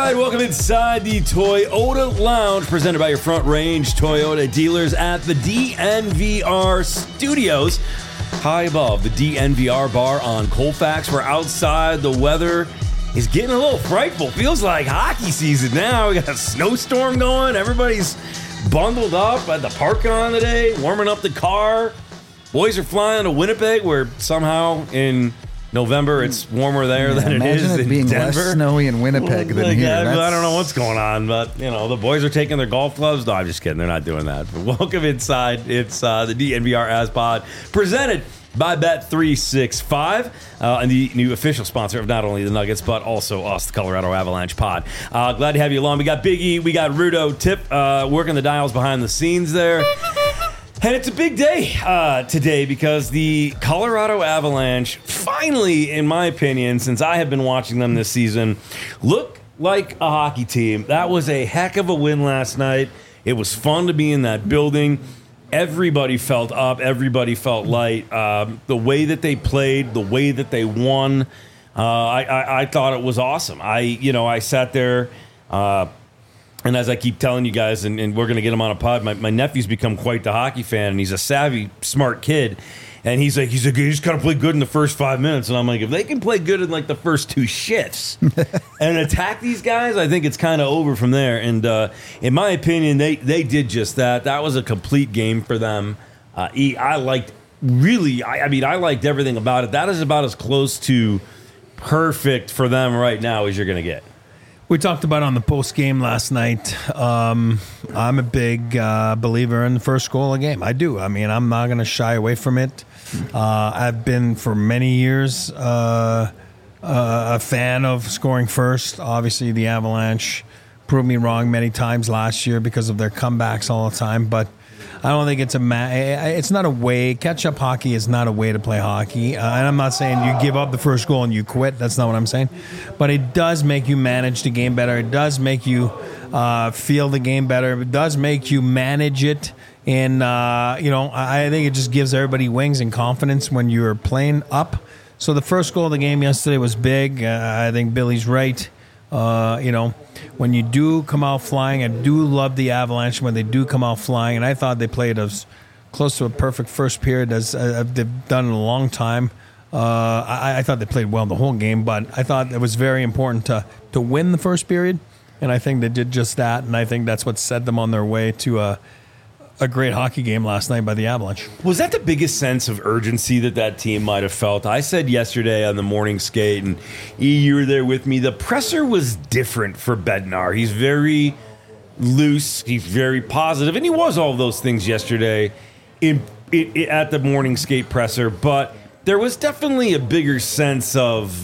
right, welcome inside the Toyota Lounge, presented by your Front Range Toyota dealers at the DNVR Studios. High above the DNVR bar on Colfax. We're outside. The weather is getting a little frightful. Feels like hockey season now. We got a snowstorm going. Everybody's bundled up at the parking lot today, warming up the car. Boys are flying to Winnipeg, where somehow in November it's warmer there than it is in being Denver. Less snowy in Winnipeg than here. I don't know what's going on, but the boys are taking their golf gloves. No, I'm just kidding. They're not doing that. But welcome inside. It's the DNVR As Pod, presented by Bet365, and the new official sponsor of not only the Nuggets, but also us, the Colorado Avalanche Pod. Glad to have you along. We got Big E, we got Rudo, Tip working the dials behind the scenes there. And it's a big day today because the Colorado Avalanche finally, in my opinion, since I have been watching them this season, look like a hockey team. That was a heck of a win last night. It was fun to be in that building. Everybody felt up. Everybody felt light. The way that they played, the way that they won, I thought it was awesome. I sat there, and as I keep telling you guys, and we're going to get him on a pod, my nephew's become quite the hockey fan, and he's a savvy, smart kid. And he's like, you just got to play good in the first 5 minutes. And I'm like, if they can play good in like the first two shifts and attack these guys, I think it's kind of over from there. And in my opinion, they did just that. That was a complete game for them. I liked everything about it. That is about as close to perfect for them right now as you're going to get. We talked about on the post game last night. I'm a big believer in the first goal of the game. I do. I mean, I'm not going to shy away from it. I've been for many years a fan of scoring first. Obviously, the Avalanche proved me wrong many times last year because of their comebacks all the time. But I don't think it's not a way. Catch-up hockey is not a way to play hockey. And I'm not saying you give up the first goal and you quit. That's not what I'm saying. But it does make you manage the game better. It does make you feel the game better. It does make you manage it. And, I think it just gives everybody wings and confidence when you're playing up. So the first goal of the game yesterday was big. I think Billy's right. When you do come out flying, I do love the Avalanche when they do come out flying, and I thought they played as close to a perfect first period as they've done in a long time. I thought they played well the whole game, but I thought it was very important to win the first period, and I think they did just that, and I think that's what set them on their way to a great hockey game last night by the Avalanche. Was that the biggest sense of urgency that team might have felt? I said yesterday on the morning skate, and you were there with me, the presser was different for Bednar. He's very loose, he's very positive, and he was all of those things yesterday at the morning skate presser, but there was definitely a bigger sense of,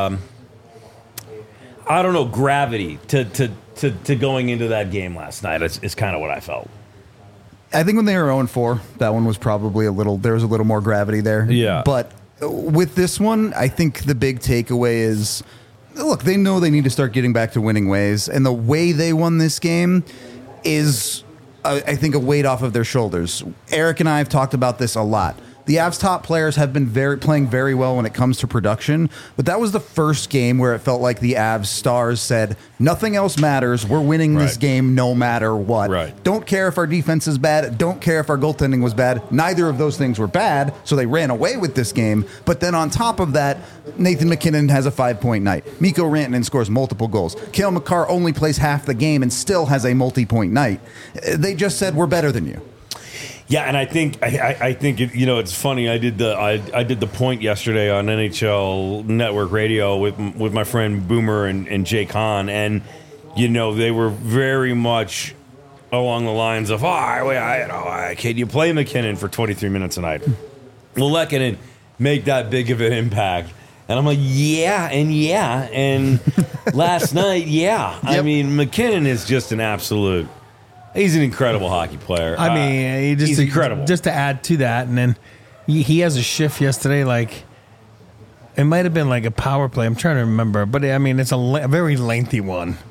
gravity to going into that game last night. It's kind of what I felt. I think when they were 0-4, that one was probably there was a little more gravity there. Yeah. But with this one, I think the big takeaway is, look, they know they need to start getting back to winning ways. And the way they won this game is, I think, a weight off of their shoulders. Eric and I have talked about this a lot. The Avs' top players have been playing very well when it comes to production, but that was the first game where it felt like the Avs stars said, nothing else matters. We're winning this game no matter what. Right. Don't care if our defense is bad. Don't care if our goaltending was bad. Neither of those things were bad, so they ran away with this game. But then on top of that, Nathan MacKinnon has a 5-point night. Mikko Rantanen scores multiple goals. Cale Makar only plays half the game and still has a multi-point night. They just said, we're better than you. Yeah, and I think it's funny. I did the point yesterday on NHL Network Radio with my friend Boomer and Jake Hahn, and they were very much along the lines of, can you play McKinnon for 23 minutes a night? Will Lehkonen make that big of an impact? And I'm like, and last night, yeah. Yep. I mean, McKinnon is just an absolute. He's an incredible hockey player. I mean, he's incredible. Just to add to that, and then he has a shift yesterday. Like, it might have been like a power play. I'm trying to remember, but I mean, it's a very lengthy one.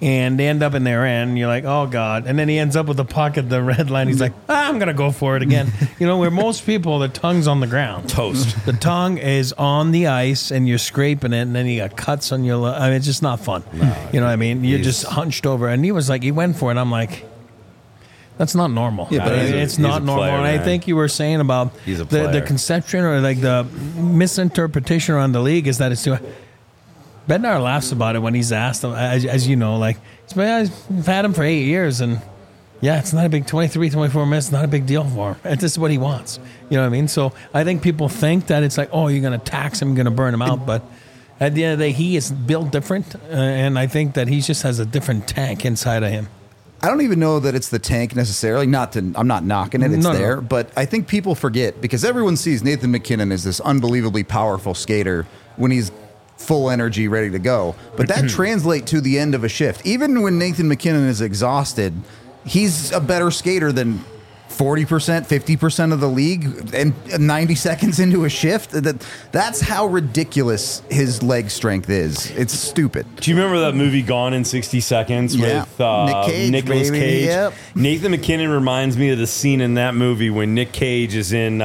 And they end up in their end. You're like, oh, God. And then he ends up with the puck at the red line. He's like, I'm going to go for it again. Where most people, the tongue's on the ground. Toast. The tongue is on the ice, and you're scraping it, and then you got cuts on your... I mean, it's just not fun. No, you know what I mean? You're just hunched over. And he was like, he went for it. I'm like... That's not normal. Yeah, but it's not normal. Player, and I man. think you were saying about He's a the player. conception or like the misinterpretation around the league is that it's too. Bednar laughs about it when he's asked, as you know, like, I've had him for 8 years, and yeah, it's not a big 23, 24 minutes, not a big deal for him. It's just what he wants. You know what I mean? So I think people think that it's like, oh, you're going to tax him, you're going to burn him out, but at the end of the day, he is built different, and I think that he just has a different tank inside of him. I don't even know that it's the tank necessarily. I'm not knocking it. It's No. there. But I think people forget because everyone sees Nathan MacKinnon as this unbelievably powerful skater when he's full energy, ready to go. But that translates to the end of a shift. Even when Nathan MacKinnon is exhausted, he's a better skater than 40%, 50% of the league, and 90 seconds into a shift. That's how ridiculous his leg strength is. It's stupid. Do you remember that movie Gone in 60 Seconds Yeah. with Nick Cage, Nicolas baby. Cage? Yep. Nathan MacKinnon reminds me of the scene in that movie when Nick Cage is in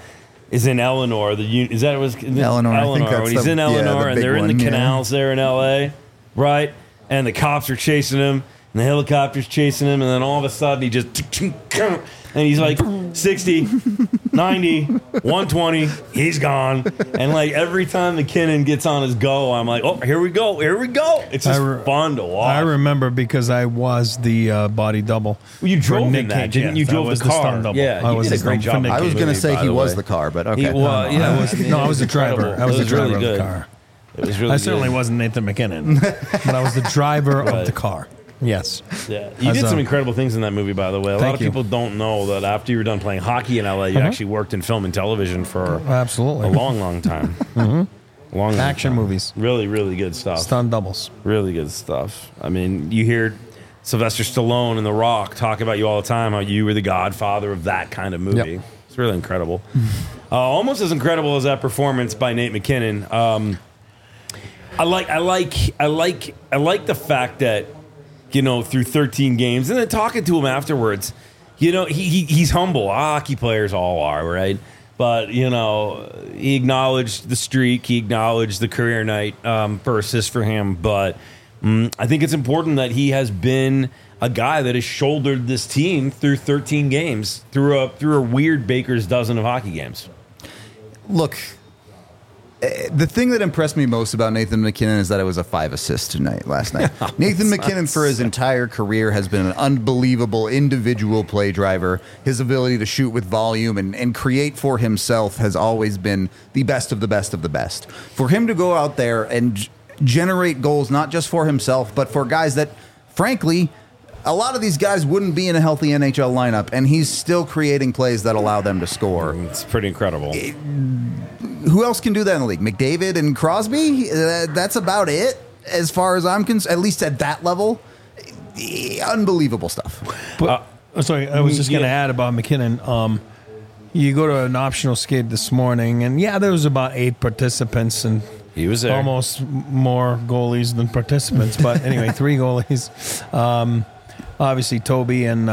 Eleanor. Is that was Eleanor, I think that's when he's the- in yeah, Eleanor the and big they're in one, the yeah. canals there in L.A., right? And the cops are chasing him. And the helicopter's chasing him, and then all of a sudden he just... And he's like 60, 90, 120, he's gone. And like every time McKinnon gets on his go, I'm like, oh, here we go. It's just fun to watch. I remember because I was the body double. Well, you for drove Nick in that, Cage, didn't you? yes, I Drove was the car. stunt double. Yeah, I he was did a the great stunt job. for Nick I was Cage. going to say by he the was way. the car, but okay. I was the driver. I was the driver of the car. It was really I certainly good. wasn't Nathan MacKinnon, but I was the driver Right. of the car. Yes. Yeah, you As did a- some incredible things in that movie, by the way. A lot Thank of you. people don't know that after you were done playing hockey in LA, you actually worked in film and television for Absolutely. a long, long time. Long Action time. movies. Really, really good stuff. Stunt doubles. Really good stuff. I mean, you hear Sylvester Stallone and The Rock talk about you all the time, how you were the godfather of that kind of movie. Yep. It's really incredible. Almost as incredible as that performance by Nate McKinnon. I like the fact that, through 13 games, and then talking to him afterwards, he's humble. Hockey players all are, right? But, he acknowledged the streak. He acknowledged the career night for assist for him. But I think it's important that he has been a guy that has shouldered this team through 13 games, through a weird baker's dozen of hockey games. Look, the thing that impressed me most about Nathan MacKinnon is that it was a 5 assists last night. Nathan MacKinnon, for his entire career, has been an unbelievable individual play driver. His ability to shoot with volume and create for himself has always been the best of the best of the best. For him to go out there and generate goals, not just for himself, but for guys that, frankly, a lot of these guys wouldn't be in a healthy NHL lineup, and he's still creating plays that allow them to score. It's pretty incredible. Who else can do that in the league? McDavid and Crosby? That's about it, as far as I'm concerned, at least at that level. Unbelievable stuff. But, sorry, I was just going to yeah. add about McKinnon. You go to an optional skate this morning, and there was about 8 participants, and He was there. almost more goalies than participants. But anyway, 3 goalies. Obviously, Toby and,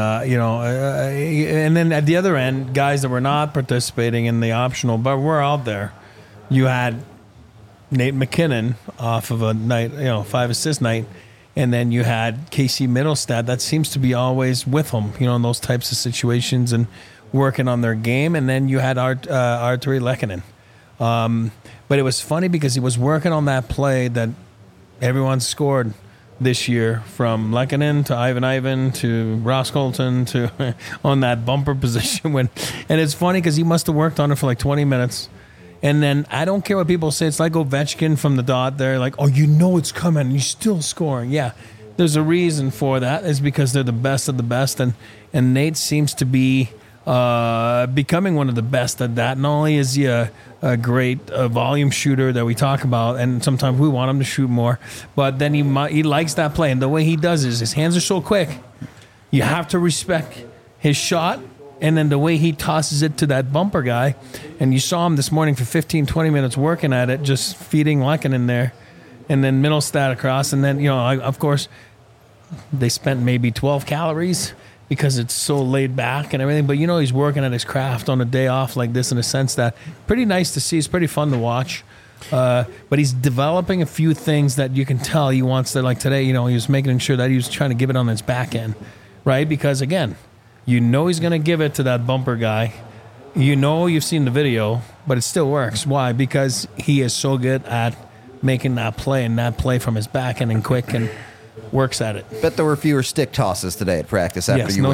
and then at the other end, guys that were not participating in the optional, but were out there. You had Nate McKinnon off of a night, 5 assist night. And then you had Casey Middlestad. That seems to be always with him, in those types of situations and working on their game. And then you had Arturi Lehkonen. But it was funny because he was working on that play that everyone scored this year, from Lehkonen to Ivan to Ross Colton to on that bumper position. And it's funny because he must have worked on it for like 20 minutes. And then I don't care what people say. It's like Ovechkin from the dot there. Like, oh, it's coming. And you're still scoring. Yeah, there's a reason for that. It's because they're the best of the best. And Nate seems to be becoming one of the best at that. Not only is he a great volume shooter that we talk about, and sometimes we want him to shoot more, but then he likes that play. And the way he does is his hands are so quick. You have to respect his shot. And then the way he tosses it to that bumper guy, and you saw him this morning for 15, 20 minutes working at it, just feeding Lehkonen in there, and then Middlestad across, and then, of course, they spent maybe 12 calories because it's so laid back and everything. But, he's working at his craft on a day off like this in a sense that pretty nice to see. It's pretty fun to watch. But he's developing a few things that you can tell he wants to, like today, he was making sure that he was trying to give it on his back end, right? Because, again, he's going to give it to that bumper guy. You've seen the video, but it still works. Why? Because he is so good at making that play and that play from his back end and quick and works at it. Bet there were fewer stick tosses today at practice after you win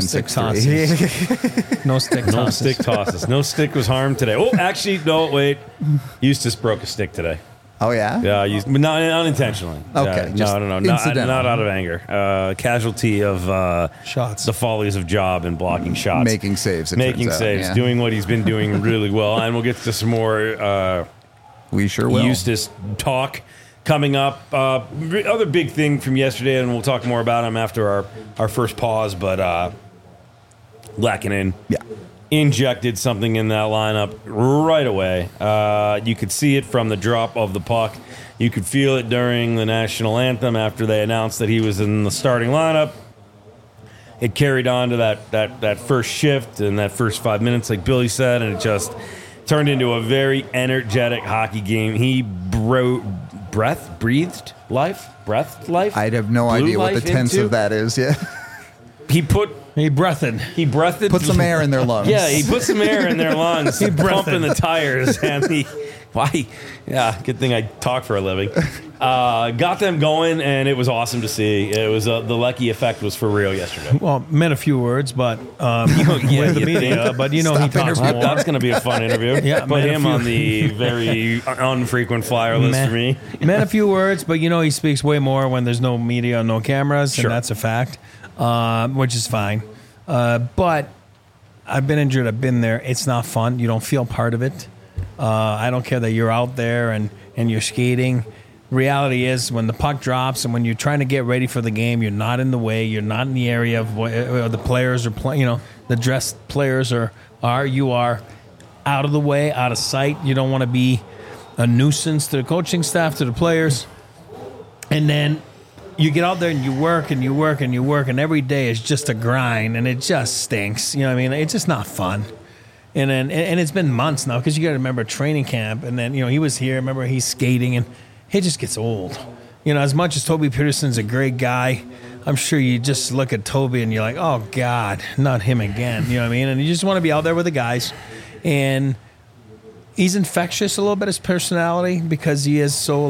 6-3. No stick tosses. No stick tosses. No stick was harmed today. Oh, actually, no, wait. Eustace broke a stick today. Oh, yeah? Yeah, but not unintentionally. Okay. No. Not out of anger. Casualty of shots. The follies of Job and blocking shots. Making saves. Making saves. Yeah. Doing what he's been doing really well. And we'll get to some more we sure will. Eustace talk coming up. Other big thing from yesterday, and we'll talk more about him after our first pause, but Lehkonen injected something in that lineup right away. You could see it from the drop of the puck. You could feel it during the national anthem after they announced that he was in the starting lineup. It carried on to that first shift and that first 5 minutes, like Billy said, and it just turned into a very energetic hockey game. He breathed life. I'd have no idea what the tense of that is. Yeah. He breathed. Put some air in their lungs. Yeah, he put some air in their lungs. He pumping the tires, and good thing I talk for a living. Got them going, and it was awesome to see. It was the Lecky effect was for real yesterday. Well, meant a few words, but with the media, but he talks more. That's going to be a fun interview. Yeah, put him on the very unfrequent flyer list for me. Meant a few words, but he speaks way more when there's no media, no cameras, and that's a fact, which is fine. But I've been injured. I've been there. It's not fun. You don't feel part of it. I don't care that you're out there and you're skating. Reality is when the puck drops and when you're trying to get ready for the game, you're not in the way. You're not in the area of where the players are playing. The dressed players are out of the way, out of sight. You don't want to be a nuisance to the coaching staff, to the players. And then you get out there and you work and you work and you work, and every day is just a grind, and it just stinks. It's just not fun. And then it's been months now, because you got to remember training camp, and then he was here. Remember, he's skating, and it just gets old. As much as Toby Peterson's a great guy, I'm sure you just look at Toby and you're like, oh God, not him again. You know what I mean? And you just want to be out there with the guys. And he's infectious a little bit, his personality, because he is so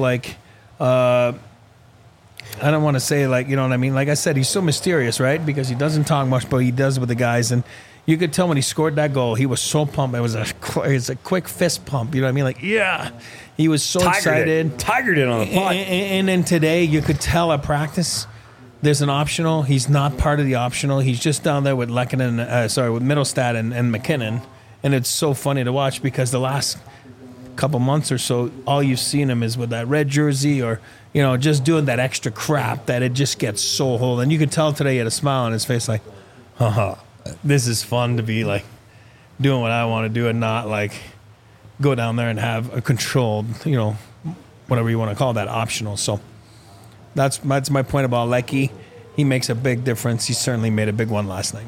I don't want to say you know what I mean? Like I said, he's so mysterious, right? Because he doesn't talk much, but he does with the guys. And you could tell when he scored that goal, he was so pumped. It was a quick fist pump. You know what I mean? Yeah. He was so excited. Tigered it on the puck. And then today, you could tell at practice, there's an optional. He's not part of the optional. He's just down there with with Mittelstadt and McKinnon. And it's so funny to watch, because the last couple months or so, all you've seen him is with that red jersey or, just doing that extra crap that it just gets so old. And you could tell today he had a smile on his face like, this is fun to be doing what I want to do and not go down there and have a controlled, whatever you want to call that, optional. So that's my point about Lecky. He makes a big difference. He certainly made a big one last night.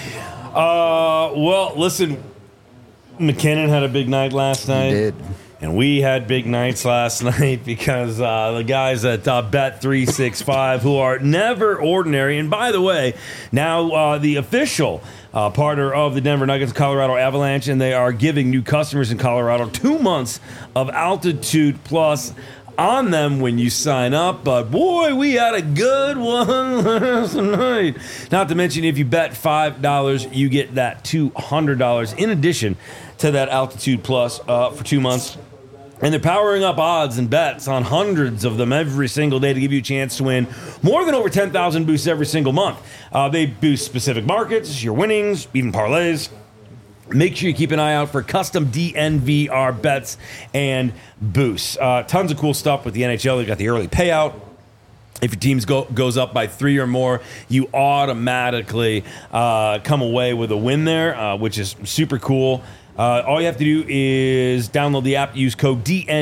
Well, listen, McKinnon had a big night last night. He did. And we had big nights last night because the guys at Bet365, who are never ordinary, and by the way, now the official partner of the Denver Nuggets, Colorado Avalanche, and they are giving new customers in Colorado 2 months of Altitude Plus on them when you sign up. But boy, we had a good one last night. Not to mention, if you bet $5, you get that $200 in addition to that Altitude Plus for 2 months. And they're powering up odds and bets on hundreds of them every single day to give you a chance to win more than over 10,000 boosts every single month. They boost specific markets, your winnings, even parlays. Make sure you keep an eye out for custom DNVR bets and boosts. Tons of cool stuff with the NHL. They got the early payout. If your team goes up by 3 or more, you automatically come away with a win there, which is super cool. All you have to do is download the app, use code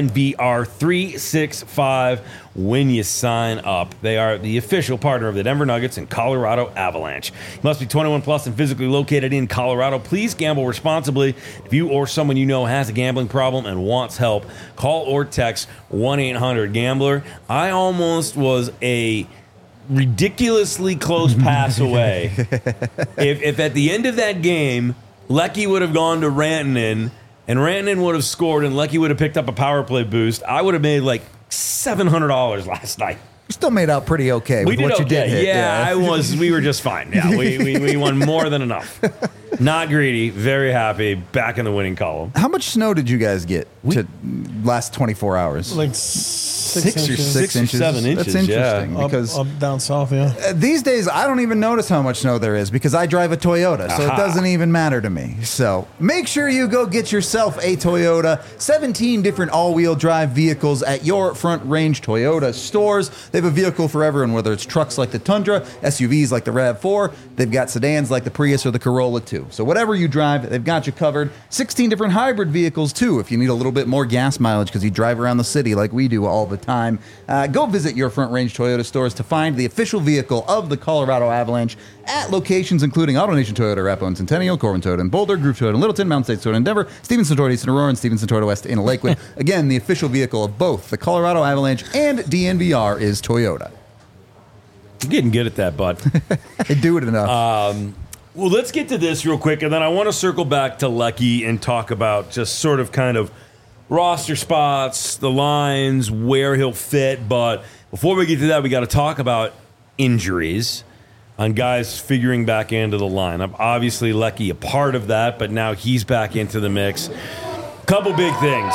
DNVR365 when you sign up. They are the official partner of the Denver Nuggets and Colorado Avalanche. You must be 21 plus and physically located in Colorado. Please gamble responsibly. If you or someone you know has a gambling problem and wants help, call or text 1-800-GAMBLER. I almost was a ridiculously close pass away. If at the end of that game, Lecky would have gone to Rantanen, and Rantanen would have scored, and Lecky would have picked up a power play boost, I would have made like $700 last night. You still made out pretty okay with what you did hit. Yeah, we were just fine. Yeah, we won more than enough. Not greedy, very happy, back in the winning column. How much snow did you guys get to last 24 hours? Like 6 inches. 6 inches. 7 inches. That's interesting because up down south, yeah. these days I don't even notice how much snow there is because I drive a Toyota, so it doesn't even matter to me. So make sure you go get yourself a Toyota. 17 different all-wheel drive vehicles at your Front Range Toyota stores. They have a vehicle for everyone, whether it's trucks like the Tundra, SUVs like the RAV4. They've got sedans like the Prius or the Corolla too. So whatever you drive, they've got you covered. 16 different hybrid vehicles too if you need a little bit more gas mileage because you drive around the city like we do all the time. Go visit your Front Range Toyota stores to find the official vehicle of the Colorado Avalanche at locations including AutoNation Toyota, Arapahoe and Centennial, Corbin Toyota and Boulder, Groove Toyota in Littleton, Mountain States Toyota in Denver, Stevenson Toyota East in Aurora, and Stevenson Toyota West in Lakewood. Again, the official vehicle of both the Colorado Avalanche and DNVR is Toyota. You're getting good at that, bud. They do it enough. Well, let's get to this real quick, and then I want to circle back to Lecky and talk about just sort of kind of roster spots, the lines, where he'll fit. But before we get to that, we got to talk about injuries on guys figuring back into the lineup. Obviously, Lecky a part of that, but now he's back into the mix. Couple big things.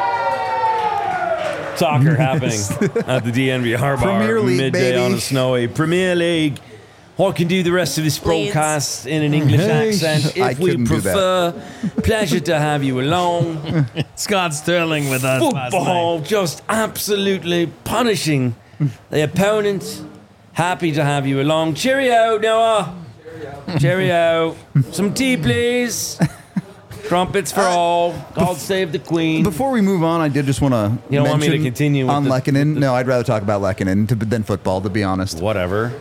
Soccer happening at the DNVR bar Premier League, midday baby. on a snowy Premier League. I can do the rest of this broadcast in an English accent I if we couldn't do that. prefer. Pleasure to have you along. Scott Sterling with us last night. Football just absolutely punishing the opponent. Happy to have you along. Cheerio, Noah. Cheerio. Some tea, please. Trumpets for all. God save the Queen. Before we move on, I did just want to You don't want me to continue with on the- Lehkonen. No, I'd rather talk about Lehkonen than football, to be honest. Whatever.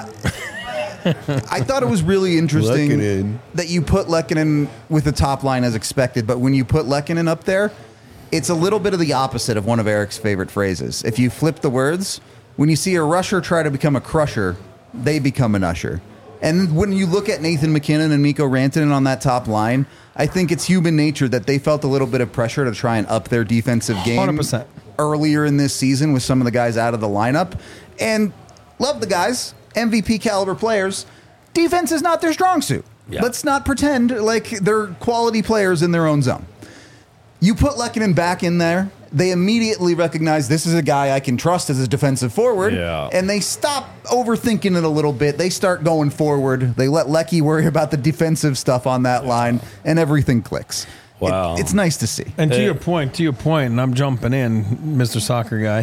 I thought it was really interesting Lehkonen. that you put Lehkonen with the top line as expected, but when you put Lehkonen up there, it's a little bit of the opposite of one of Eric's favorite phrases. If you flip the words, when you see a rusher try to become a crusher, they become an usher. And when you look at Nathan McKinnon and Mikko Rantanen on that top line, I think it's human nature that they felt a little bit of pressure to try and up their defensive game 100%. earlier in this season with some of the guys out of the lineup. And love the guys, MVP caliber players. Defense is not their strong suit. Yeah. Let's not pretend like they're quality players in their own zone. You put Lehkonen back in there, they immediately recognize this is a guy I can trust as a defensive forward, Yeah. and they stop overthinking it a little bit. They start going forward. They let Lecky worry about the defensive stuff on that line, and everything clicks. Wow. It's nice to see. And to your point, and I'm jumping in, Mr. Soccer Guy.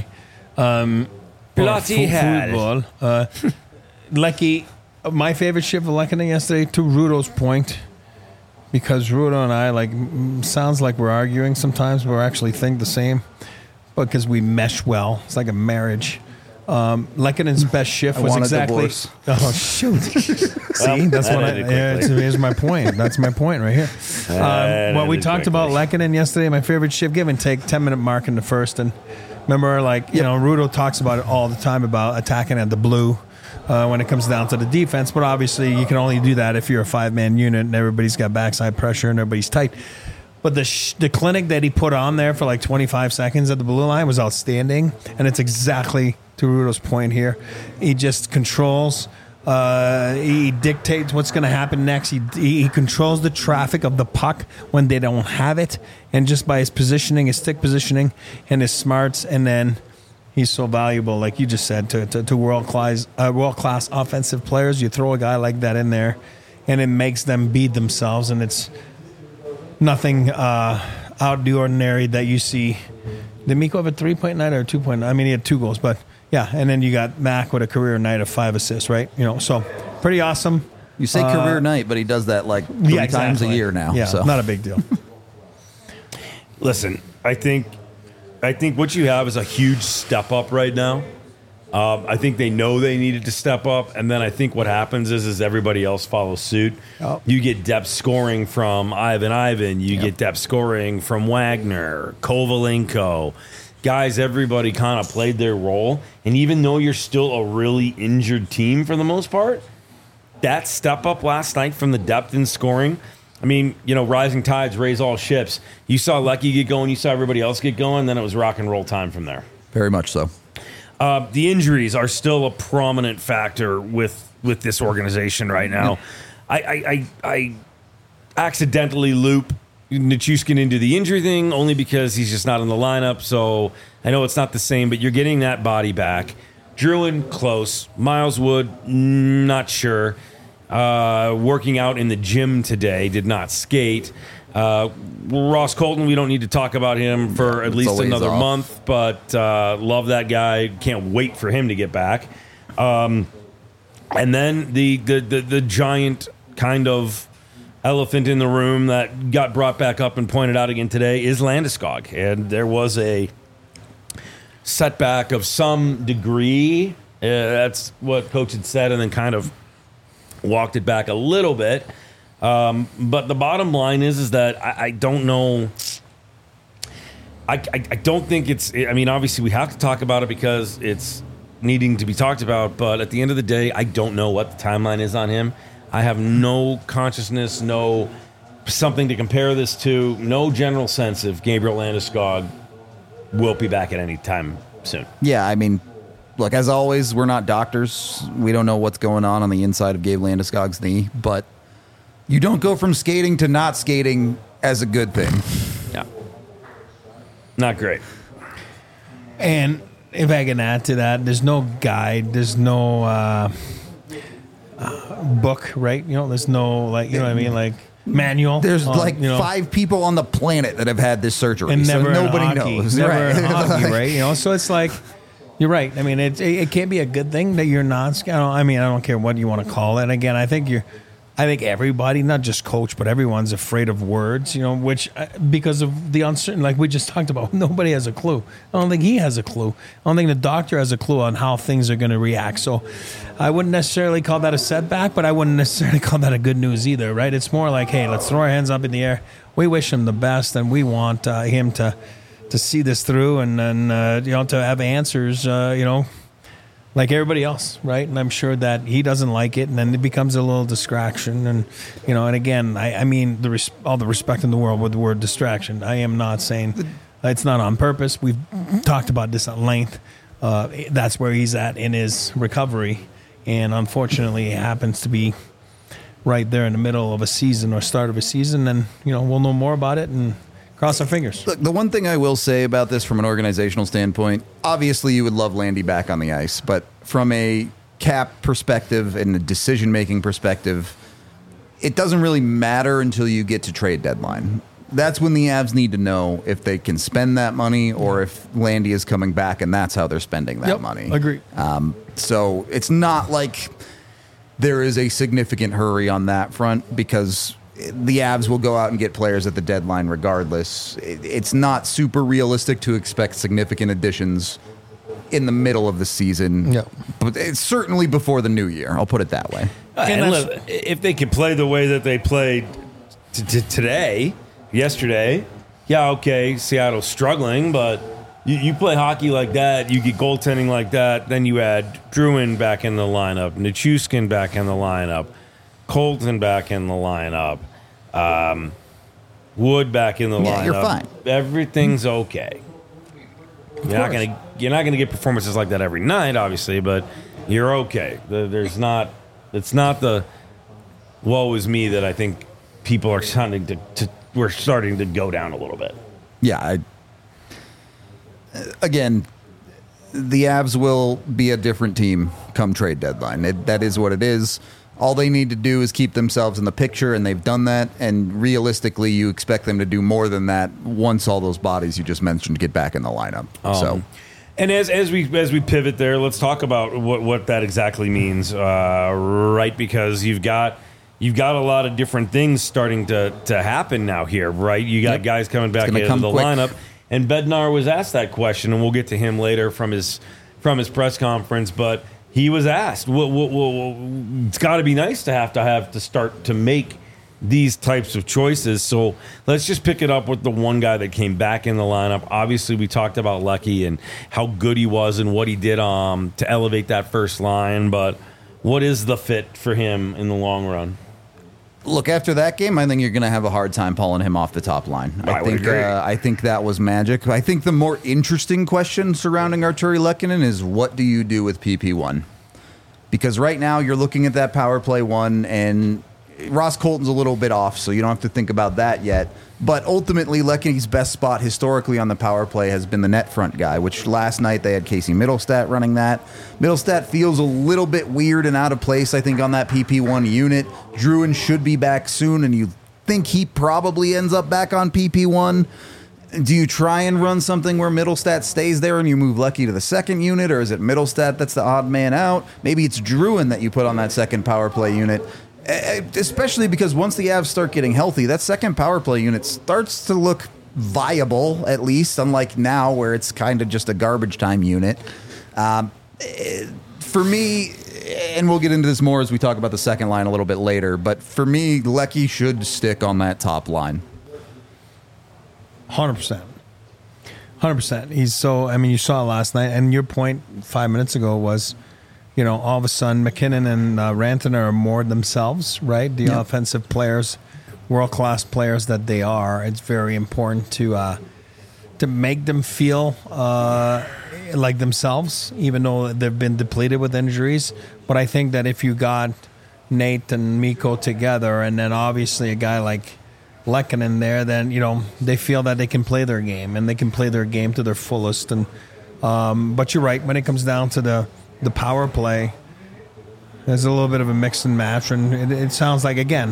Bloody hell. Football. Lecky, my favorite shift of Lehkonen yesterday, to Rudo's point, because Rudo and I, sounds like we're arguing sometimes, but we actually think the same, because we mesh well. It's like a marriage. Lekkonen's best shift I was want a exactly. divorce. Oh shoot! See, that's that what ended quickly. here's my point. That's my point right here. Well, we ended talked about quickly. Lehkonen yesterday. My favorite shift, give and take, 10-minute mark in the first, and remember, Rudo talks about it all the time about attacking at the blue. When it comes down to the defense, but obviously you can only do that if you're a 5-man unit and everybody's got backside pressure and everybody's tight. But the clinic that he put on there for like 25 seconds at the blue line was outstanding, and it's exactly to Rudo's point here. He just controls. He dictates what's going to happen next. He controls the traffic of the puck when they don't have it, and just by his positioning, his stick positioning, and his smarts, and then. He's so valuable, like you just said, to world-class offensive players. You throw a guy like that in there, and it makes them beat themselves, and it's nothing out of the ordinary that you see. Did Mikko have a 3-point night or a 2-point night? I mean, he had 2 goals, but yeah. And then you got Mac with a career night of 5 assists, right? So pretty awesome. You say career night, but he does that like 3 times a year now. Yeah, so. not a big deal. Listen, I think what you have is a huge step up right now. I think they know they needed to step up, and then I think what happens is everybody else follows suit. Yep. You get depth scoring from Ivan. You get depth scoring from Wagner, Kovalenko. Guys, everybody kind of played their role, and even though you're still a really injured team for the most part, that step up last night from the depth in scoring, I mean, rising tides raise all ships. You saw Lecky get going, you saw everybody else get going, then it was rock and roll time from there. Very much so. The injuries are still a prominent factor with this organization right now. I accidentally loop Nichushkin into the injury thing only because he's just not in the lineup. So I know it's not the same, but you're getting that body back. Druin, close. Miles Wood, not sure. Working out in the gym today, did not skate. Ross Colton, we don't need to talk about him for at least another month, but love that guy. Can't wait for him to get back. And then the giant kind of elephant in the room that got brought back up and pointed out again today is Landeskog. And there was a setback of some degree. That's what Coach had said, and then kind of walked it back a little bit. But the bottom line is that I don't know. I don't think it's. I mean, obviously we have to talk about it because it's needing to be talked about. But at the end of the day, I don't know what the timeline is on him. I have no consciousness, no something to compare this to, no general sense if Gabriel Landeskog will be back at any time soon. Yeah, I mean, look, as always, we're not doctors. We don't know what's going on the inside of Gabe Landeskog's knee, but you don't go from skating to not skating as a good thing. Yeah. Not great. And if I can add to that, there's no guide, there's no book, right? There's no, what I mean? Manual. There's 5 people on the planet that have had this surgery, and never so nobody hockey, knows. Never right. in hockey, right? So it's like, you're right. I mean, it can't be a good thing that you're not. I don't care what you want to call it. Again, I think everybody, not just coach, but everyone's afraid of words, which because of the uncertain, like we just talked about, nobody has a clue. I don't think he has a clue. I don't think the doctor has a clue on how things are going to react. So I wouldn't necessarily call that a setback, but I wouldn't necessarily call that a good news either, right? It's more like, hey, let's throw our hands up in the air. We wish him the best, and we want him to see this through and to have answers, like everybody else, right? And I'm sure that he doesn't like it, and then it becomes a little distraction. And, and again, I mean, all the respect in the world with the word distraction. I am not saying it's not on purpose. We've talked about this at length. That's where he's at in his recovery. And unfortunately, it happens to be right there in the middle of a season or start of a season. And, we'll know more about it and cross our fingers. Look, the one thing I will say about this from an organizational standpoint, obviously you would love Landy back on the ice, but from a cap perspective and a decision-making perspective, it doesn't really matter until you get to trade deadline. That's when the Avs need to know if they can spend that money or if Landy is coming back, and that's how they're spending that money. Agree. So it's not like there is a significant hurry on that front because the Avs will go out and get players at the deadline regardless. It's not super realistic to expect significant additions in the middle of the season, but it's certainly before the new year. I'll put it that way. And look, if they could play the way that they played yesterday, okay, Seattle's struggling, but you play hockey like that, you get goaltending like that, then you add Druin back in the lineup, Nichushkin back in the lineup, Colton back in the lineup, Wood back in the lineup. You're fine. Everything's okay. You're not gonna get performances like that every night, obviously, but you're okay. It's not the woe is me that I think people are starting to we're starting to go down a little bit. Yeah. Again, the Avs will be a different team come trade deadline. That is what it is. All they need to do is keep themselves in the picture, and they've done that. And realistically, you expect them to do more than that once all those bodies you just mentioned get back in the lineup. And as we pivot there, let's talk about what that exactly means, right? Because you've got you've got a lot of different things starting to happen now here, right? You got guys coming back into the lineup. And Bednar was asked that question, and we'll get to him later from his press conference, but he was asked, it's got to be nice to have to start to make these types of choices. So let's just pick it up with the one guy that came back in the lineup. Obviously, we talked about Lucky and how good he was and what he did to elevate that first line. But what is the fit for him in the long run? Look, after that game, I think you're going to have a hard time pulling him off the top line. I think that was magic. I think the more interesting question surrounding Artturi Lehkonen is, what do you do with PP1? Because right now you're looking at that power play one, and Ross Colton's a little bit off, so you don't have to think about that yet. But ultimately, Lehkonen's best spot historically on the power play has been the net front guy, which last night they had Casey Middlestat running that. Middlestat feels a little bit weird and out of place, I think, on that PP1 unit. Drouin should be back soon, and you think he probably ends up back on PP1. Do you try and run something where Middlestat stays there and you move Lucky to the second unit, or is it Middlestat that's the odd man out? Maybe it's Drouin that you put on that second power play unit. Especially because once the Avs start getting healthy, that second power play unit starts to look viable, at least, unlike now where it's kind of just a garbage time unit. For me, and we'll get into this more as we talk about the second line a little bit later, but for me, Lecky should stick on that top line. 100%. 100%. He's so, I mean, you saw it last night, and your point 5 minutes ago was, you know, all of a sudden McKinnon and Rantanen are more themselves, right? The offensive players, world-class players that they are. It's very important to make them feel like themselves, even though they've been depleted with injuries. But I think that if you got Nate and Mikko together, and then obviously a guy like Lehkonen there, then, you know, they feel that they can play their game, and they can play their game to their fullest. And but you're right, when it comes down to the power play, there's a little bit of a mix and match, and it sounds like, again,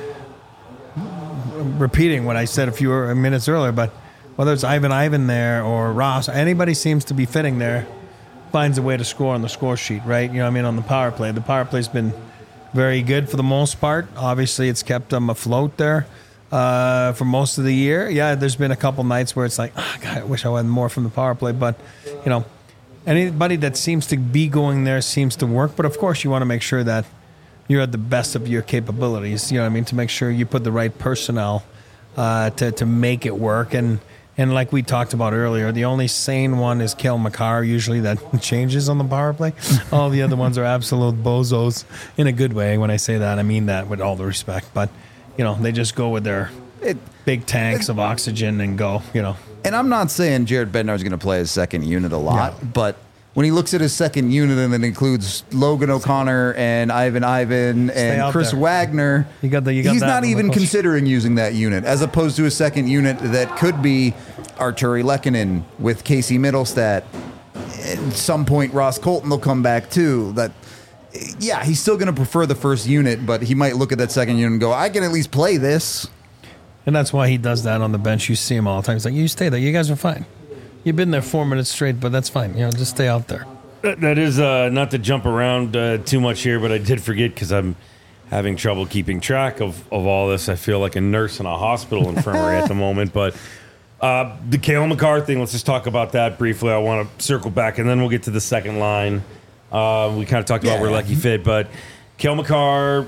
repeating what I said a few minutes earlier, but whether it's Ivan there or Ross, anybody seems to be fitting there, finds a way to score on the score sheet, right? You know what I mean, on the power play. The power play's been very good for the most part. Obviously, it's kept them afloat there for most of the year. Yeah, there's been a couple nights where it's like, oh, God, I wish I had more from the power play, but, you know, anybody that seems to be going there seems to work. But, of course, you want to make sure that you're at the best of your capabilities, you know what I mean, to make sure you put the right personnel to make it work. And like we talked about earlier, the only sane one is Cale Makar, usually, that changes on the power play. All the other ones are absolute bozos in a good way. When I say that, I mean that with all the respect. But, you know, they just go with their big tanks of oxygen and go, you know. And I'm not saying Jared Bednar is going to play his second unit a lot, but when he looks at his second unit and it includes Logan O'Connor and Ivan and Chris Wagner, he's not even considering using that unit, as opposed to a second unit that could be Artturi Lehkonen with Casey Middlestat. At some point, Ross Colton will come back too. Yeah, he's still going to prefer the first unit, but he might look at that second unit and go, I can at least play this. And that's why he does that on the bench. You see him all the time. He's like, you stay there. You guys are fine. You've been there 4 minutes straight, but that's fine. You know, just stay out there. That is not to jump around too much here, but I did forget because I'm having trouble keeping track of all this. I feel like a nurse in a hospital infirmary at the moment. But the Cale Makar thing, let's just talk about that briefly. I want to circle back, and then we'll get to the second line. We kind of talked about where Lucky fit, but Cale Makar...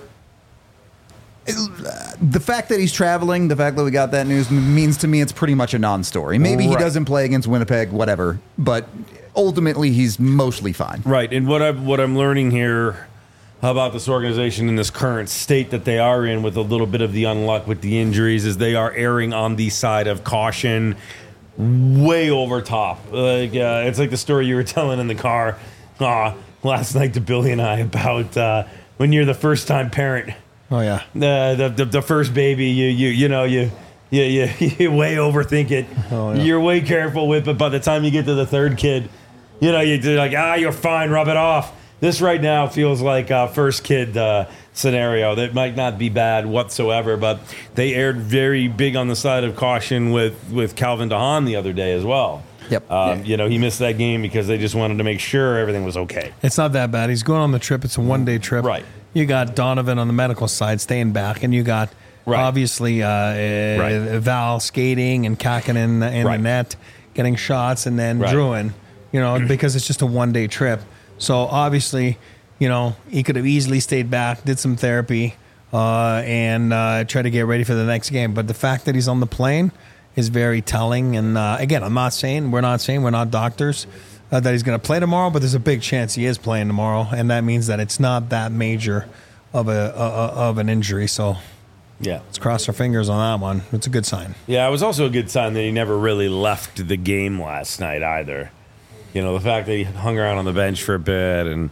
The fact that he's traveling, the fact that we got that news means to me it's pretty much a non-story. Maybe he doesn't play against Winnipeg, whatever, but ultimately he's mostly fine. Right, and what I'm learning here about this organization in this current state that they are in, with a little bit of the unluck with the injuries, is they are erring on the side of caution, way over top. It's like the story you were telling in the car last night to Billy and I about when you're the first-time parent. Oh yeah, the first baby, you way overthink it. Oh, yeah. You're way careful with it. By the time you get to the third kid, you know you're like, you're fine, rub it off. This right now feels like a first kid scenario that might not be bad whatsoever, but they aired very big on the side of caution with Calvin DeHaan the other day as well. Yep. You know, he missed that game because they just wanted to make sure everything was okay. It's not that bad. He's going on the trip. It's a one-day trip. Right. you got Donovan on the medical side staying back, and you got obviously Val skating and Kakin in the net getting shots, and then Drouin, because it's just a one-day trip. So obviously, he could have easily stayed back, did some therapy, and try to get ready for the next game. But the fact that he's on the plane is very telling. And again, we're not saying we're not doctors that he's going to play tomorrow, but there's a big chance he is playing tomorrow, and that means that it's not that major of an injury. So let's cross our fingers on that one. It's a good sign. Yeah, it was also a good sign that he never really left the game last night either. The fact that he hung around on the bench for a bit, and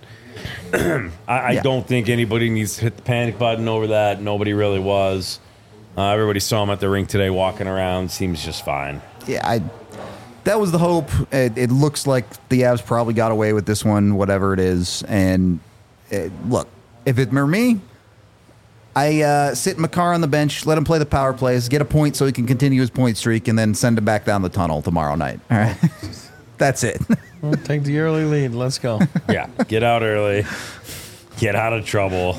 I don't think anybody needs to hit the panic button over that. Nobody really was. Everybody saw him at the rink today walking around. Seems just fine. Yeah, that was the hope. It looks like the Avs probably got away with this one, whatever it is. And look, if it were me, I sit Makar on the bench, let him play the power plays, get a point so he can continue his point streak, and then send him back down the tunnel tomorrow night. All right, that's it. Well, take the early lead. Let's go. Yeah, get out early, get out of trouble,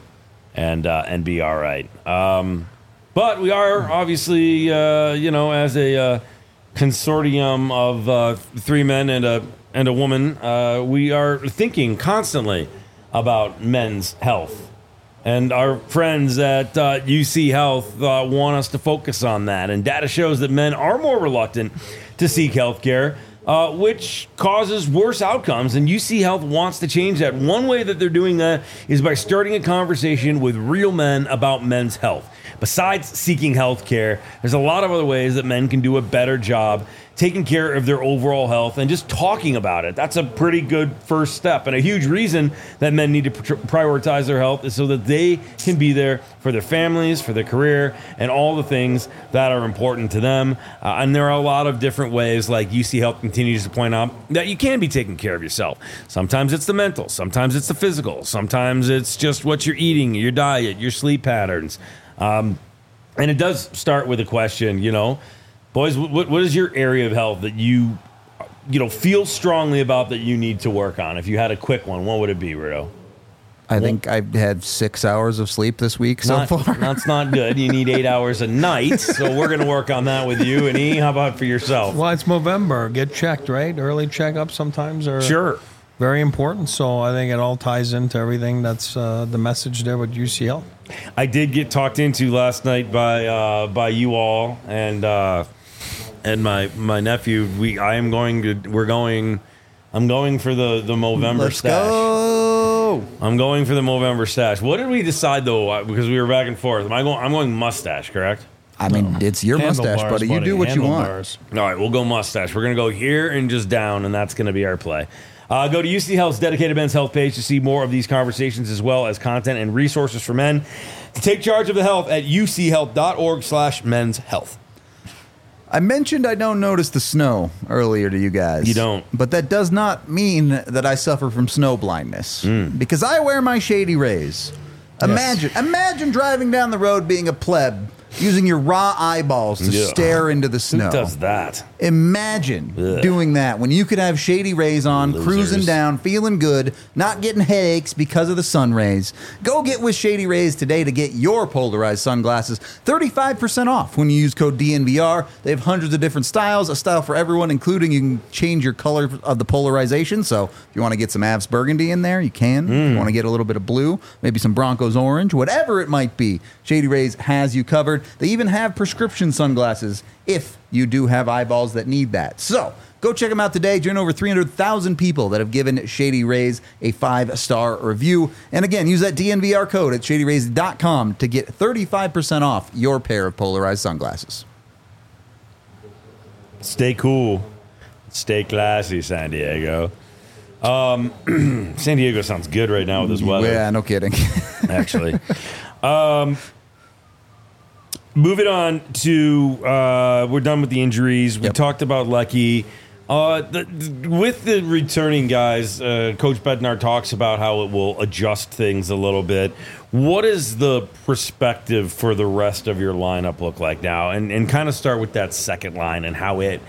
and be all right. But we are obviously, as a consortium of three men and a woman, we are thinking constantly about men's health. And our friends at UC Health want us to focus on that. And data shows that men are more reluctant to seek health care, which causes worse outcomes. And UC Health wants to change that. One way that they're doing that is by starting a conversation with real men about men's health. Besides seeking health care, there's a lot of other ways that men can do a better job taking care of their overall health and just talking about it. That's a pretty good first step. And a huge reason that men need to prioritize their health is so that they can be there for their families, for their career, and all the things that are important to them. And there are a lot of different ways, like UC Health continues to point out, that you can be taking care of yourself. Sometimes it's the mental, sometimes it's the physical, sometimes it's just what you're eating, your diet, your sleep patterns. And it does start with a question, boys, what is your area of health that you feel strongly about that you need to work on? If you had a quick one, what would it be, Rudo? I think I've had 6 hours of sleep this week so far. That's not good. You need 8 hours a night, so we're going to work on that with you. And E, how about for yourself? Well, it's Movember. Get checked, right? Early checkups sometimes are very important. So I think it all ties into everything. That's the message there with UCL. I did get talked into last night by you all and my nephew. I'm going for the Movember stash. Go. I'm going for the Movember stash. What did we decide though? Because we were back and forth. I'm going mustache, correct? I mean, it's your mustache, buddy. You do what you want. All right, we'll go mustache. We're going to go here and just down, and that's going to be our play. Go to UC Health's dedicated men's health page to see more of these conversations as well as content and resources for men to take charge of the health at uchealth.org/men's health. I mentioned I don't notice the snow earlier to you guys. You don't. But that does not mean that I suffer from snow blindness because I wear my Shady Rays. Imagine driving down the road being a pleb, using your raw eyeballs to stare into the snow. Who does that? Imagine doing that when you could have Shady Rays on, cruising down, feeling good, not getting headaches because of the sun rays. Go get with Shady Rays today to get your polarized sunglasses 35% off when you use code DNVR. They have hundreds of different styles, a style for everyone, including you can change your color of the polarization. So if you want to get some Avs burgundy in there, you can. If you want to get a little bit of blue, maybe some Broncos orange, whatever it might be, Shady Rays has you covered. They even have prescription sunglasses if you do have eyeballs that need that. So go check them out today. Join over 300,000 people that have given Shady Rays a 5-star review. And again, use that DNVR code at shadyrays.com to get 35% off your pair of polarized sunglasses. Stay cool. Stay classy, San Diego. San Diego sounds good right now with this weather. Yeah, no kidding. Actually. Moving on to, we're done with the injuries. We talked about Lucky. With the returning guys, Coach Bednar talks about how it will adjust things a little bit. What does the perspective for the rest of your lineup look like now? And kind of start with that second line and how it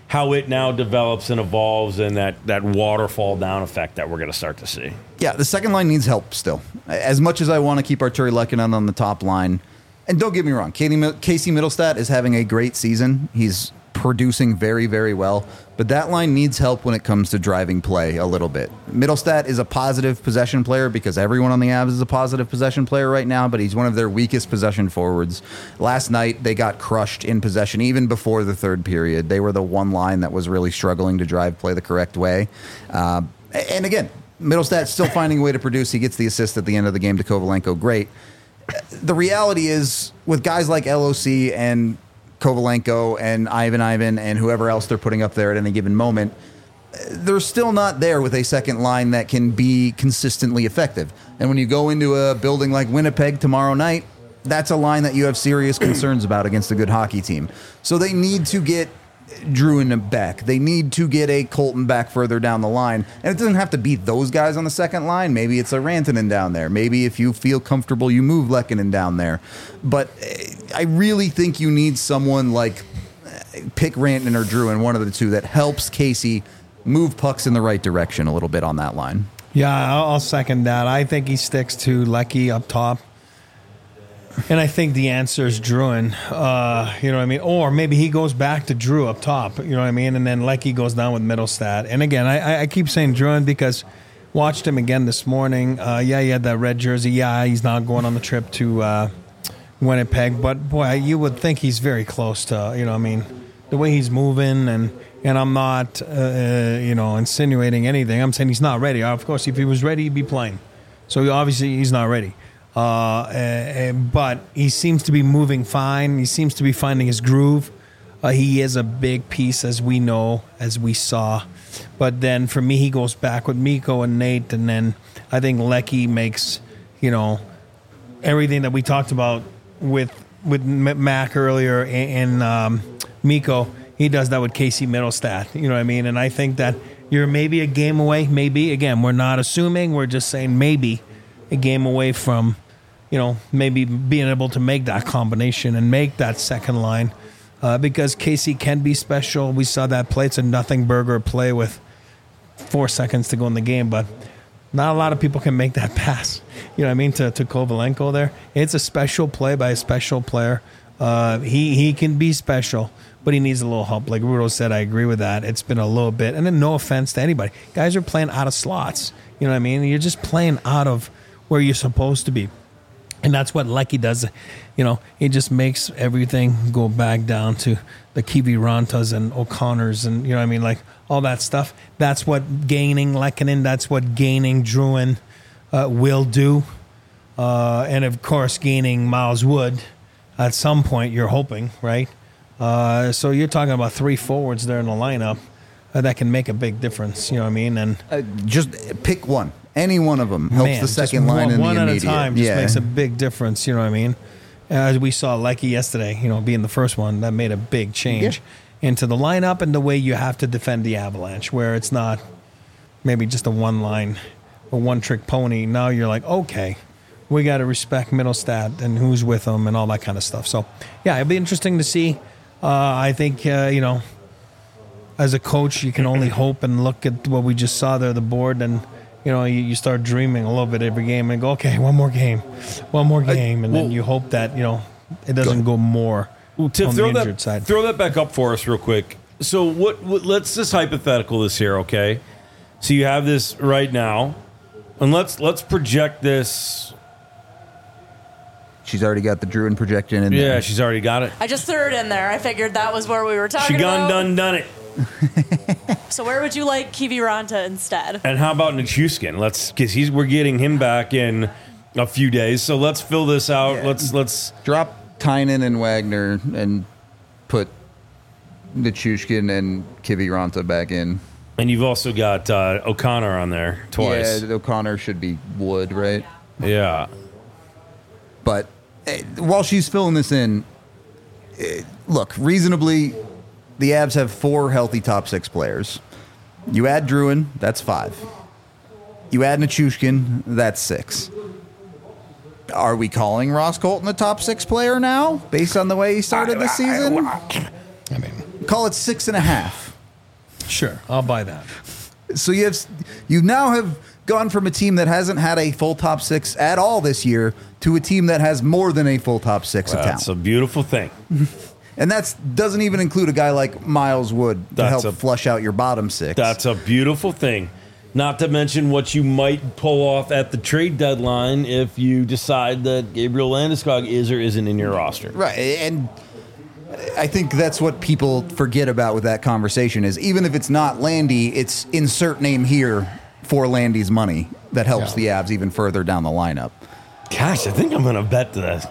how it now develops and evolves, and that waterfall down effect that we're going to start to see. Yeah, the second line needs help still. As much as I want to keep Arturi Lehkonen on the top line, and don't get me wrong, Casey Middlestat is having a great season. He's producing very, very well, but that line needs help when it comes to driving play a little bit. Middlestat is a positive possession player because everyone on the Avs is a positive possession player right now, but he's one of their weakest possession forwards. Last night, they got crushed in possession even before the third period. They were the one line that was really struggling to drive play the correct way. And again, Middlestat's still finding a way to produce. He gets the assist at the end of the game to Kovalenko. Great. The reality is, with guys like LOC and Kovalenko and Ivan and whoever else they're putting up there at any given moment, they're still not there with a second line that can be consistently effective. And when you go into a building like Winnipeg tomorrow night, that's a line that you have serious concerns about against a good hockey team. So they need to get Drouin back. They need to get a Colton back further down the line. And it doesn't have to be those guys on the second line. Maybe it's a Rantanen down there. Maybe if you feel comfortable, you move Lehkonen down there. But I really think you need someone like pick Rantanen or Drouin, one of the two, that helps Casey move pucks in the right direction a little bit on that line. Yeah, I'll second that. I think he sticks to Lecky up top. And I think the answer is Drouin, you know what I mean? Or maybe he goes back to Drew up top, you know what I mean? And then Lecky goes down with Middlestat. And again, I keep saying Drouin because watched him again this morning. Yeah, he had that red jersey. Yeah, he's not going on the trip to Winnipeg. But, boy, you would think he's very close to, you know what I mean, the way he's moving. And I'm not, you know, insinuating anything. I'm saying he's not ready. Of course, if he was ready, he'd be playing. So, obviously, he's not ready. But he seems to be moving fine. He seems to be finding his groove. He is a big piece, as we know, as we saw. But then for me, he goes back with Mikko and Nate, and then I think Lecky makes, you know, everything that we talked about with Mac earlier and Mikko. He does that with Casey Middlestat. You know what I mean? And I think that you're maybe a game away. Maybe, again, we're not assuming. We're just saying maybe a game away from, you know, maybe being able to make that combination and make that second line because Casey can be special. We saw that play. It's a nothing burger play with 4 seconds to go in the game, but not a lot of people can make that pass, you know what I mean, to Kovalenko there. It's a special play by a special player. He can be special, but he needs a little help. Like Rudo said, I agree with that. It's been a little bit, and then no offense to anybody. Guys are playing out of slots, you know what I mean? You're just playing out of where you're supposed to be. And that's what Lecky does. You know, he just makes everything go back down to the Kivirantas and O'Connors and, you know what I mean, like all that stuff. That's what gaining Lehkonen, that's what gaining Drouin will do. And, of course, gaining Miles Wood at some point, you're hoping, right? So you're talking about 3 forwards there in the lineup that can make a big difference, you know what I mean? And just pick one. Any one of them helps the second line in the immediate. One at a time just makes a big difference, you know what I mean? As we saw Lecky yesterday, you know, being the first one, that made a big change into the lineup and the way you have to defend the Avalanche, where it's not maybe just a one-line, a one-trick pony. Now you're like, okay, we got to respect Middlestat and who's with them and all that kind of stuff. So, yeah, it'll be interesting to see. I think, you know, as a coach, you can only hope and look at what we just saw there, the board, and you know, you start dreaming a little bit every game and go, okay, one more game. And then you hope that, you know, it doesn't go more on the injured side. Throw that back up for us real quick. So what let's just hypothetical this here, okay? So you have this right now, and let's project this. She's already got the Drouin projection in there. Yeah, she's already got it. I just threw it in there. I figured that was where we were talking about. Done it. So where would you like Kiviranta instead? And how about Nichushkin? Because we're getting him back in a few days. So let's fill this out. Yeah. Let's drop Tynan and Wagner and put Nichushkin and Kiviranta back in. And you've also got O'Connor on there twice. Yeah, O'Connor should be Wood, right? Yeah. But while she's filling this in, look, reasonably, the Avs have 4 healthy top 6 players. You add Drouin, that's 5. You add Nichushkin, that's 6. Are we calling Ross Colton a top 6 player now, based on the way he started this season? I mean, Call it 6.5. Sure, I'll buy that. So you now have gone from a team that hasn't had a full top six at all this year to a team that has more than a full top six of That's a talent. beautiful thing. And that doesn't even include a guy like Miles Wood to That's help flush out your bottom six. That's a beautiful thing. Not to mention what you might pull off at the trade deadline if you decide that Gabriel Landeskog is or isn't in your roster. Right. And I think that's what people forget about with that conversation is even if it's not Landy, it's insert name here for Landy's money that helps the Avs even further down the lineup. Gosh, I think I'm going to bet this.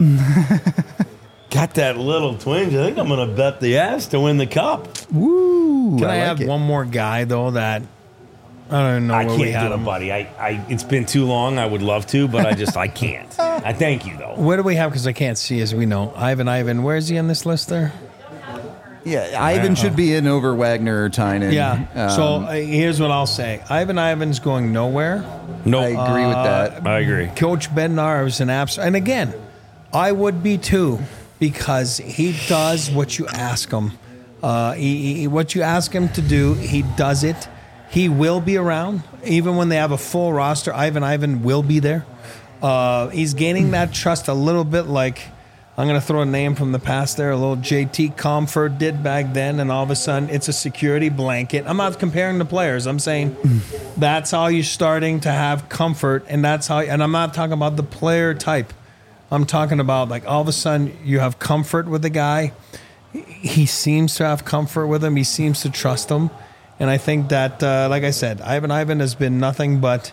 Got that little twinge. I think I'm going to bet the Avs to win the cup. Woo! Can I like have it. one more guy though that I don't know I where can't we had do it, him. buddy. It's been too long. I would love to, but I can't. I thank you, though. Where do we have? Because I can't see, as we know. Ivan, where is he on this list there? Yeah, Ivan should be in over Wagner or Tynan. Yeah. So here's what I'll say. Ivan's going nowhere. No, I agree with that. I agree. Coach Bednar is an absolute, and again, I would be too, because he does what you ask him. What you ask him to do, he does it. He will be around. Even when they have a full roster, Ivan will be there. He's gaining that trust a little bit like, I'm going to throw a name from the past there, a little JT Comfort did back then, and all of a sudden it's a security blanket. I'm not comparing the players. I'm saying that's how you're starting to have comfort, and that's how. And I'm not talking about the player type. I'm talking about like all of a sudden you have comfort with the guy. He seems to have comfort with him. He seems to trust him. And I think that, like I said, Ivan has been nothing but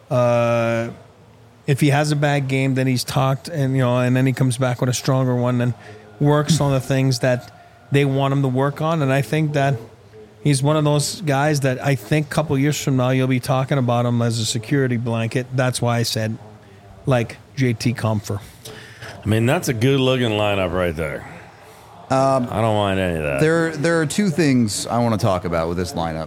if he has a bad game, then he's talked, and and then he comes back with a stronger one and works on the things that they want him to work on. And I think that he's one of those guys that I think a couple years from now you'll be talking about him as a security blanket. That's why I said like JT Comfort. I mean, that's a good-looking lineup right there. I don't mind any of that. There are two things I want to talk about with this lineup.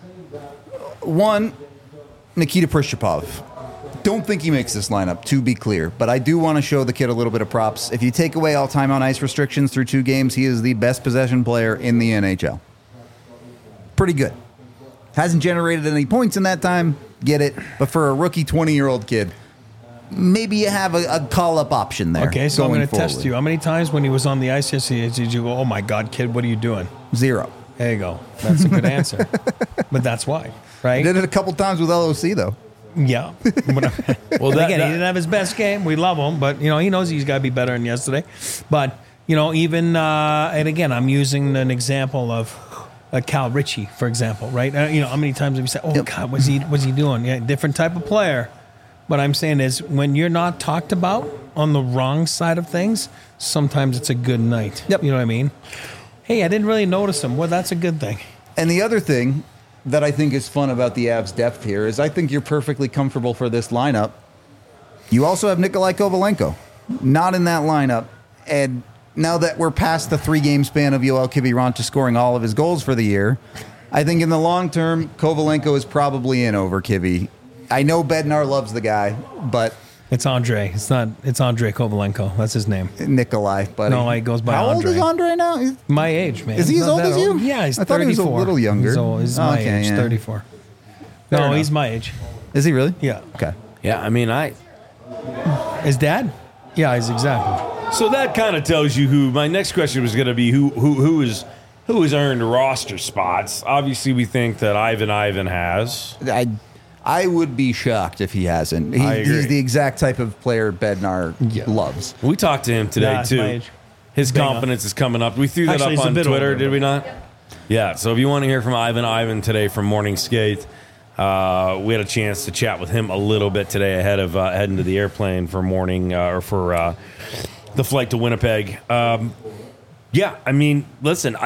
One, Nikita Prishchapov. Don't think he makes this lineup, to be clear, but I do want to show the kid a little bit of props. If you take away all time on ice restrictions through 2 games, he is the best possession player in the NHL. Pretty good. Hasn't generated any points in that time, get it, but for a rookie 20-year-old kid, maybe you have a call-up option there. Okay, so I'm going to test forward. you. How many times when he was on the ice yesterday did you go, oh my God, kid, what are you doing? 0. There you go. That's a good answer. But that's why, right? Did it a couple times with LOC, though. Yeah. Well, again, he didn't have his best game. We love him, but he knows he's got to be better than yesterday. But even and again, I'm using an example of Cal Ritchie, for example, right? How many times have you said, "Oh God, what's he doing?" Yeah, different type of player. What I'm saying is, when you're not talked about on the wrong side of things, sometimes it's a good night. Yep. You know what I mean? Hey, I didn't really notice him. Well, that's a good thing. And the other thing that I think is fun about the Avs' depth here is I think you're perfectly comfortable for this lineup. You also have Nikolai Kovalenko, not in that lineup. And now that we're past the 3-game span of Yoel Kiviranta scoring all of his goals for the year, I think in the long term, Kovalenko is probably in over Kivi. I know Bednar loves the guy, but It's Andre. It's Andre Kovalenko. That's his name. Nikolai, buddy. No, he goes by How Andre. old is Andre now? My age, man. Is he He's as not old that as you? Yeah, he's 34. I thought he was a little younger. He's my Okay, age, yeah. 34. Fair No, enough. he's my age. Is he really? Yeah. Okay. Yeah, I mean, His dad? Yeah, he's exactly. So that kind of tells you who. My next question was going to be who has earned roster spots. Obviously, we think that Ivan has. I would be shocked if he hasn't. I agree. He's the exact type of player Bednar loves. We talked to him today Yeah, it's my too. age. His Bingo. confidence is coming up. We threw that Actually, up he's a on bit Twitter, older, did we but- not? Yeah. So if you want to hear from Ivan today from Morning Skate, we had a chance to chat with him a little bit today ahead of heading to the airplane for morning or for the flight to Winnipeg. Yeah, I mean, listen,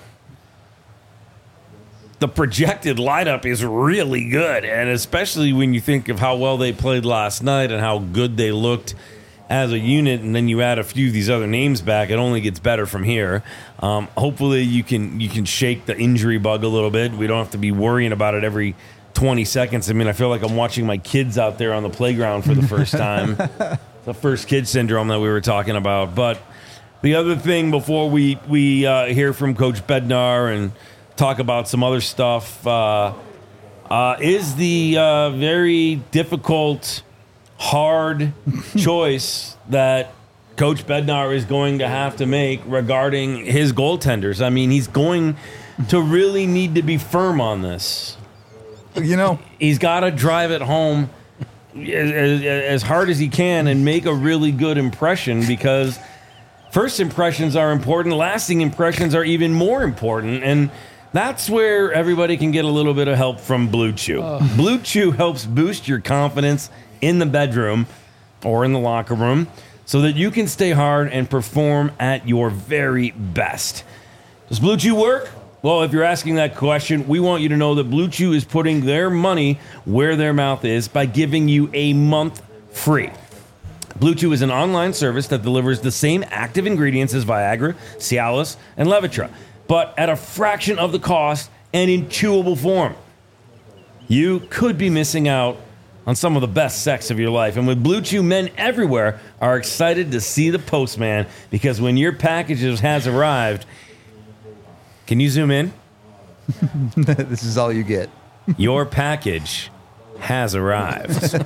the projected lineup is really good, and especially when you think of how well they played last night and how good they looked as a unit, and then you add a few of these other names back, it only gets better from here. Hopefully you can shake the injury bug a little bit. We don't have to be worrying about it every 20 seconds. I mean, I feel like I'm watching my kids out there on the playground for the first time. The first kid syndrome that we were talking about. But the other thing before we hear from Coach Bednar and talk about some other stuff, is the very difficult, hard choice that Coach Bednar is going to have to make regarding his goaltenders. I mean, he's going to really need to be firm on this. You know, He's got to drive it home as hard as he can and make a really good impression, because first impressions are important. Lasting impressions are even more important. And that's where everybody can get a little bit of help from Blue Chew. Blue Chew helps boost your confidence in the bedroom or in the locker room so that you can stay hard and perform at your very best. Does Blue Chew work? Well, if you're asking that question, we want you to know that Blue Chew is putting their money where their mouth is by giving you a month free. Blue Chew is an online service that delivers the same active ingredients as Viagra, Cialis, and Levitra, but at a fraction of the cost and in chewable form. You could be missing out on some of the best sex of your life. And with Blue Chew, men everywhere are excited to see the postman, because when your package has arrived, can you zoom in? this is all you get. Your package has arrived.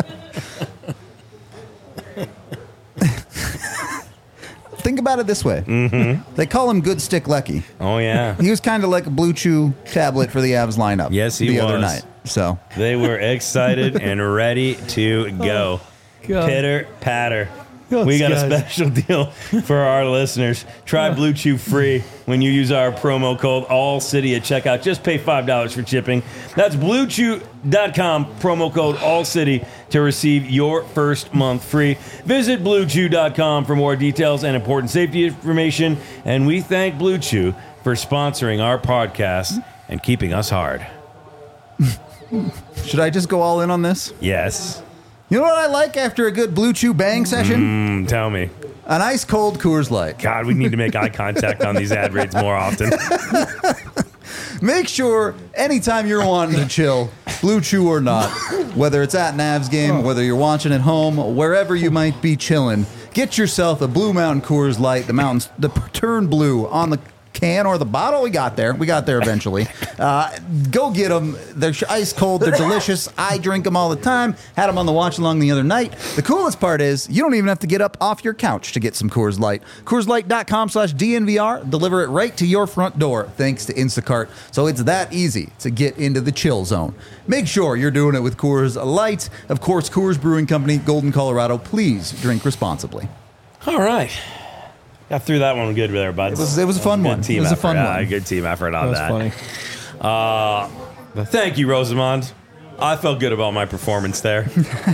Think about it this way. Mm-hmm. They call him Good Stick Lecky. Oh, yeah. He was kind of like a Blue Chew tablet for the Avs lineup. Yes, he the was. other night. So They were excited and ready to go. God. Pitter patter. Yes, We got guys. a special deal for our listeners. Try Blue Chew free when you use our promo code ALLCITY at checkout. Just pay $5 for shipping. That's BlueChew.com, promo code ALLCITY to receive your first month free. Visit BlueChew.com for more details and important safety information. And we thank Blue Chew for sponsoring our podcast and keeping us hard. should I just go all in on this? Yes. You know what I like after a good Blue Chew bang session? Tell me. An ice cold Coors Light. God, we need to make eye contact on these ad reads more often. Make sure anytime you're wanting to chill, Blue Chew or not, whether it's at an Avs game, whether you're watching at home, wherever you might be chilling, get yourself a Blue Mountain Coors Light. The mountains, the turn blue on the can or the bottle. We got there eventually. Go get them. They're ice cold. They're delicious. I drink them all the time. Had them on the watch along the other night. The coolest part is you don't even have to get up off your couch to get some Coors Light. CoorsLight.com/DNVR. Deliver it right to your front door thanks to Instacart. So it's that easy to get into the chill zone. Make sure you're doing it with Coors Light. Of course, Coors Brewing Company, Golden, Colorado. Please drink responsibly. All right. Got through that one good there, bud. It was a fun one. Team It was a effort. fun Yeah, one. good team effort on That was that. funny. Thank you, Rosamond. I felt good about my performance there.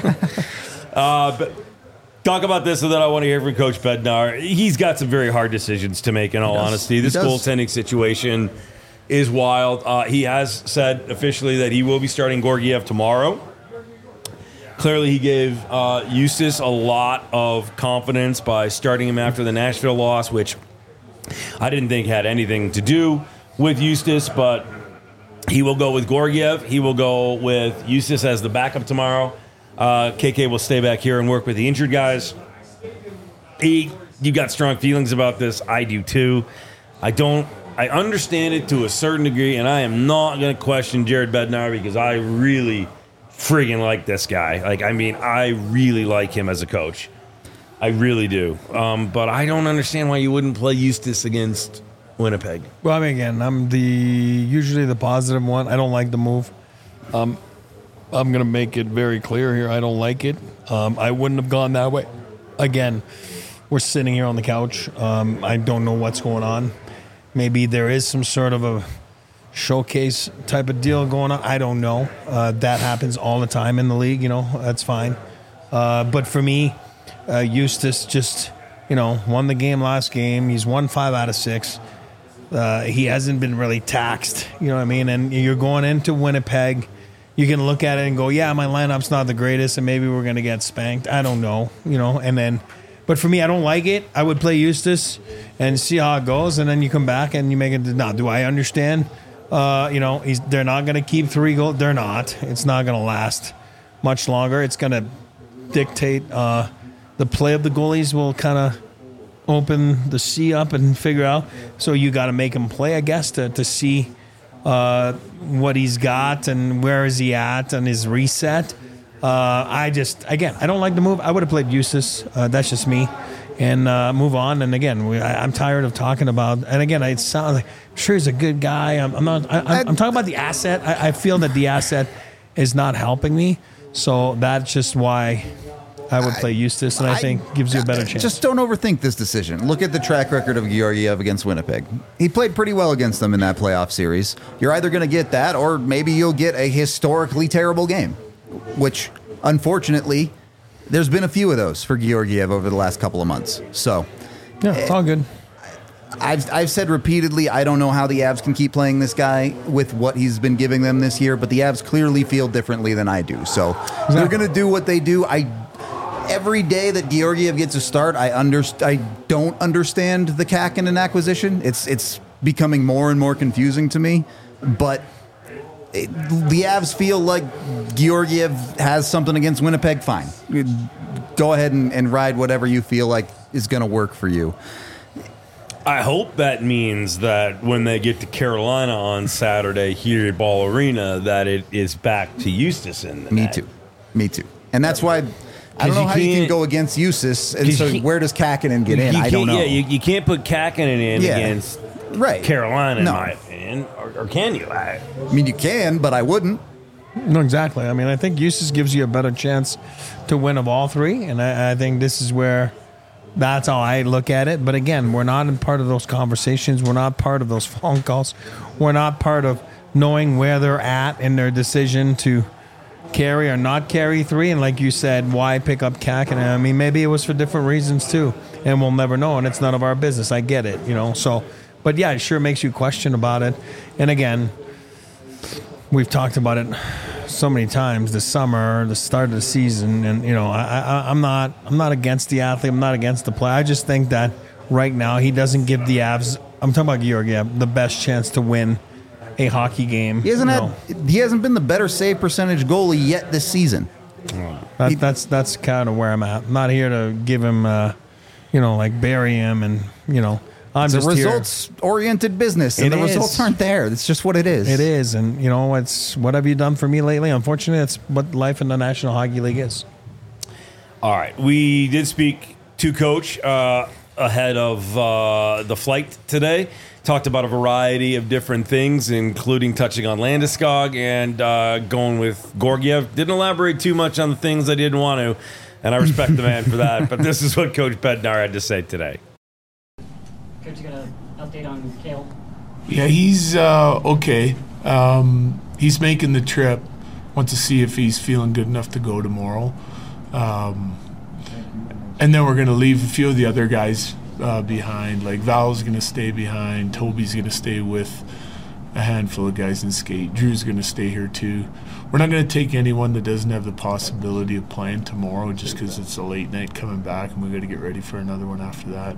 But talk about this, and then I want to hear from Coach Bednar. He's got some very hard decisions to make, in all honesty. This does. goaltending situation is wild. He has said officially that he will be starting Georgiev tomorrow. Clearly, he gave Eustace a lot of confidence by starting him after the Nashville loss, which I didn't think had anything to do with Eustace, but he will go with Georgiev. He will go with Eustace as the backup tomorrow. KK will stay back here and work with the injured guys. You got strong feelings about this. I do too. I understand it to a certain degree, and I am not going to question Jared Bednar because I really friggin' like this guy. I really like him as a coach. I really do. But I don't understand why you wouldn't play Eustace against Winnipeg. Well, I mean, again, I'm usually the positive one. I don't like the move. I'm going to make it very clear here. I don't like it. I wouldn't have gone that way. Again, we're sitting here on the couch. I don't know what's going on. Maybe there is some sort of a showcase type of deal going on. I don't know. That happens all the time in the league. That's fine. But for me, Eustace just, won the game last game. He's won 5 out of 6. He hasn't been really taxed. You know what I mean? And you're going into Winnipeg. You can look at it and go, yeah, my lineup's not the greatest, and maybe we're going to get spanked. I don't know. But for me, I don't like it. I would play Eustace and see how it goes, and then you come back and you make it. Now, do I understand? They're not going to keep 3 goals. They're not. It's not going to last much longer. It's going to dictate the play of the goalies will kind of open the sea up and figure out. So you got to make them play, I guess, to see what he's got and where is he at and his reset. I don't like the move. I would have played Eustace. That's just me. And move on. And again, I'm tired of talking about. And again, it sounds like sure he's a good guy. I'm talking about the asset. I feel that the asset is not helping me. So that's just why I would play Eustace, and I think gives you a better chance. Just don't overthink this decision. Look at the track record of Georgiev against Winnipeg. He played pretty well against them in that playoff series. You're either going to get that, or maybe you'll get a historically terrible game, which, unfortunately, there's been a few of those for Georgiev over the last couple of months. So, yeah, it's all good. I've said repeatedly, I don't know how the Avs can keep playing this guy with what he's been giving them this year, but the Avs clearly feel differently than I do. So they're going to do what they do. Every day that Georgiev gets a start, I don't understand the Kähkönen acquisition. It's becoming more and more confusing to me. But the Avs feel like Georgiev has something against Winnipeg. Fine, go ahead and ride whatever you feel like is going to work for you. I hope that means that when they get to Carolina on Saturday here at Ball Arena, that it is back to Eustace in the net. Me too. And that's why I don't know how you can go against Eustace. And so where does Kähkönen get in? I don't know. Yeah, you can't put Kähkönen in against Carolina, in my opinion. Or can you? I mean, you can, but I wouldn't. No, exactly. I mean, I think Eustace gives you a better chance to win of all three. And I think this is where... That's how I look at it. But again, we're not in part of those conversations. We're not part of those phone calls. We're not part of knowing where they're at in their decision to carry or not carry three. And like you said, why pick up Kähkönen? I mean, maybe it was for different reasons too. And we'll never know. And it's none of our business. I get it, So, but yeah, it sure makes you question about it. And again, we've talked about it so many times this summer, the start of the season, and I'm not against the athlete. I'm not against the play. I just think that right now he doesn't give the Avs. I'm talking about Georgiev, the best chance to win a hockey game. He hasn't been the better save percentage goalie yet this season. That's kind of where I'm at. I'm not here to give him, like bury him, and it's a results-oriented business, and the results aren't there. It's just what it is. It is, and it's what have you done for me lately? Unfortunately, that's what life in the National Hockey League is. All right, we did speak to Coach ahead of the flight today. Talked about a variety of different things, including touching on Landeskog and going with Georgiev. Didn't elaborate too much on the things I didn't want to, and I respect the man for that. But this is what Coach Bednar had to say today. Coach, you got an update on Cale? Yeah, he's okay. He's making the trip. Want to see if he's feeling good enough to go tomorrow. And then we're going to leave a few of the other guys behind. Like Val's going to stay behind. Toby's going to stay with a handful of guys in skate. Drew's going to stay here too. We're not going to take anyone that doesn't have the possibility of playing tomorrow just because it's a late night coming back and we got to get ready for another one after that.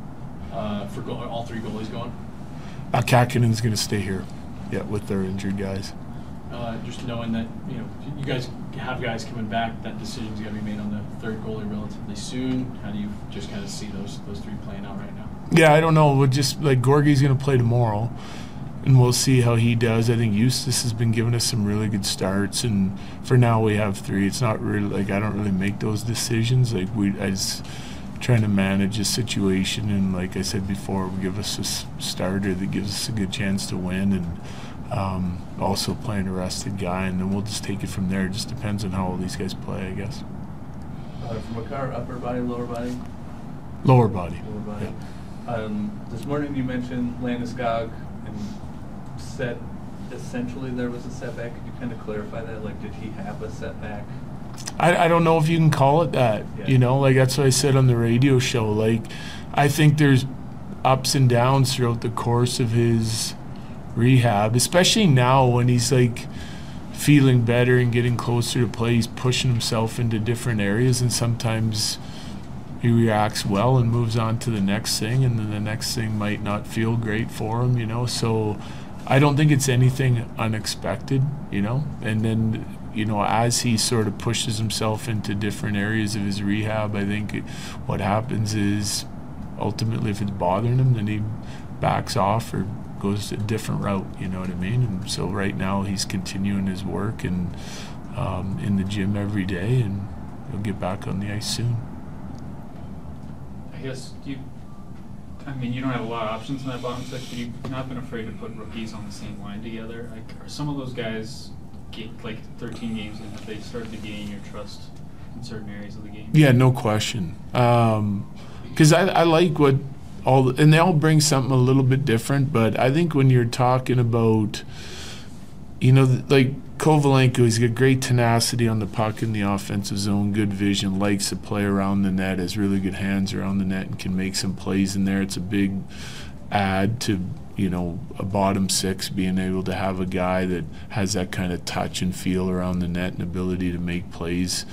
For all three goalies going? Kähkönen's going to stay here, with their injured guys. Just knowing that you guys have guys coming back, that decision's got to be made on the third goalie relatively soon. How do you just kind of see those three playing out right now? Yeah, I don't know. We'll just Gorgie's going to play tomorrow, and we'll see how he does. I think Eustace has been giving us some really good starts, and for now we have three. It's not really I don't really make those decisions. I just trying to manage a situation, and like I said before, we give us a starter that gives us a good chance to win, and also playing a rested guy, and then we'll just take it from there. It just depends on how all these guys play, I guess. From a car, upper body, lower body? Lower body. Lower body. Yeah. This morning you mentioned Landeskog and said essentially there was a setback. Could you kind of clarify that? Did he have a setback? I don't know if you can call it that. Yeah. That's what I said on the radio show. I think there's ups and downs throughout the course of his rehab, especially now when he's feeling better and getting closer to play. He's pushing himself into different areas, and sometimes he reacts well and moves on to the next thing, and then the next thing might not feel great for him, So I don't think it's anything unexpected, and then as he sort of pushes himself into different areas of his rehab, I think what happens is ultimately if it's bothering him, then he backs off or goes a different route, you know what I mean? And so right now he's continuing his work and in the gym every day, and he'll get back on the ice soon. I guess you don't have a lot of options in that bottom six, but you've not been afraid to put rookies on the same line together. Like, are some of those guys, like 13 games in, have they started to gain your trust in certain areas of the game? Yeah, no question. Because I like what and they all bring something a little bit different, but I think when you're talking about, like Kovalenko, he's got great tenacity on the puck in the offensive zone, good vision, likes to play around the net, has really good hands around the net, and can make some plays in there. It's a big add to, a bottom six, being able to have a guy that has that kind of touch and feel around the net and ability to make plays.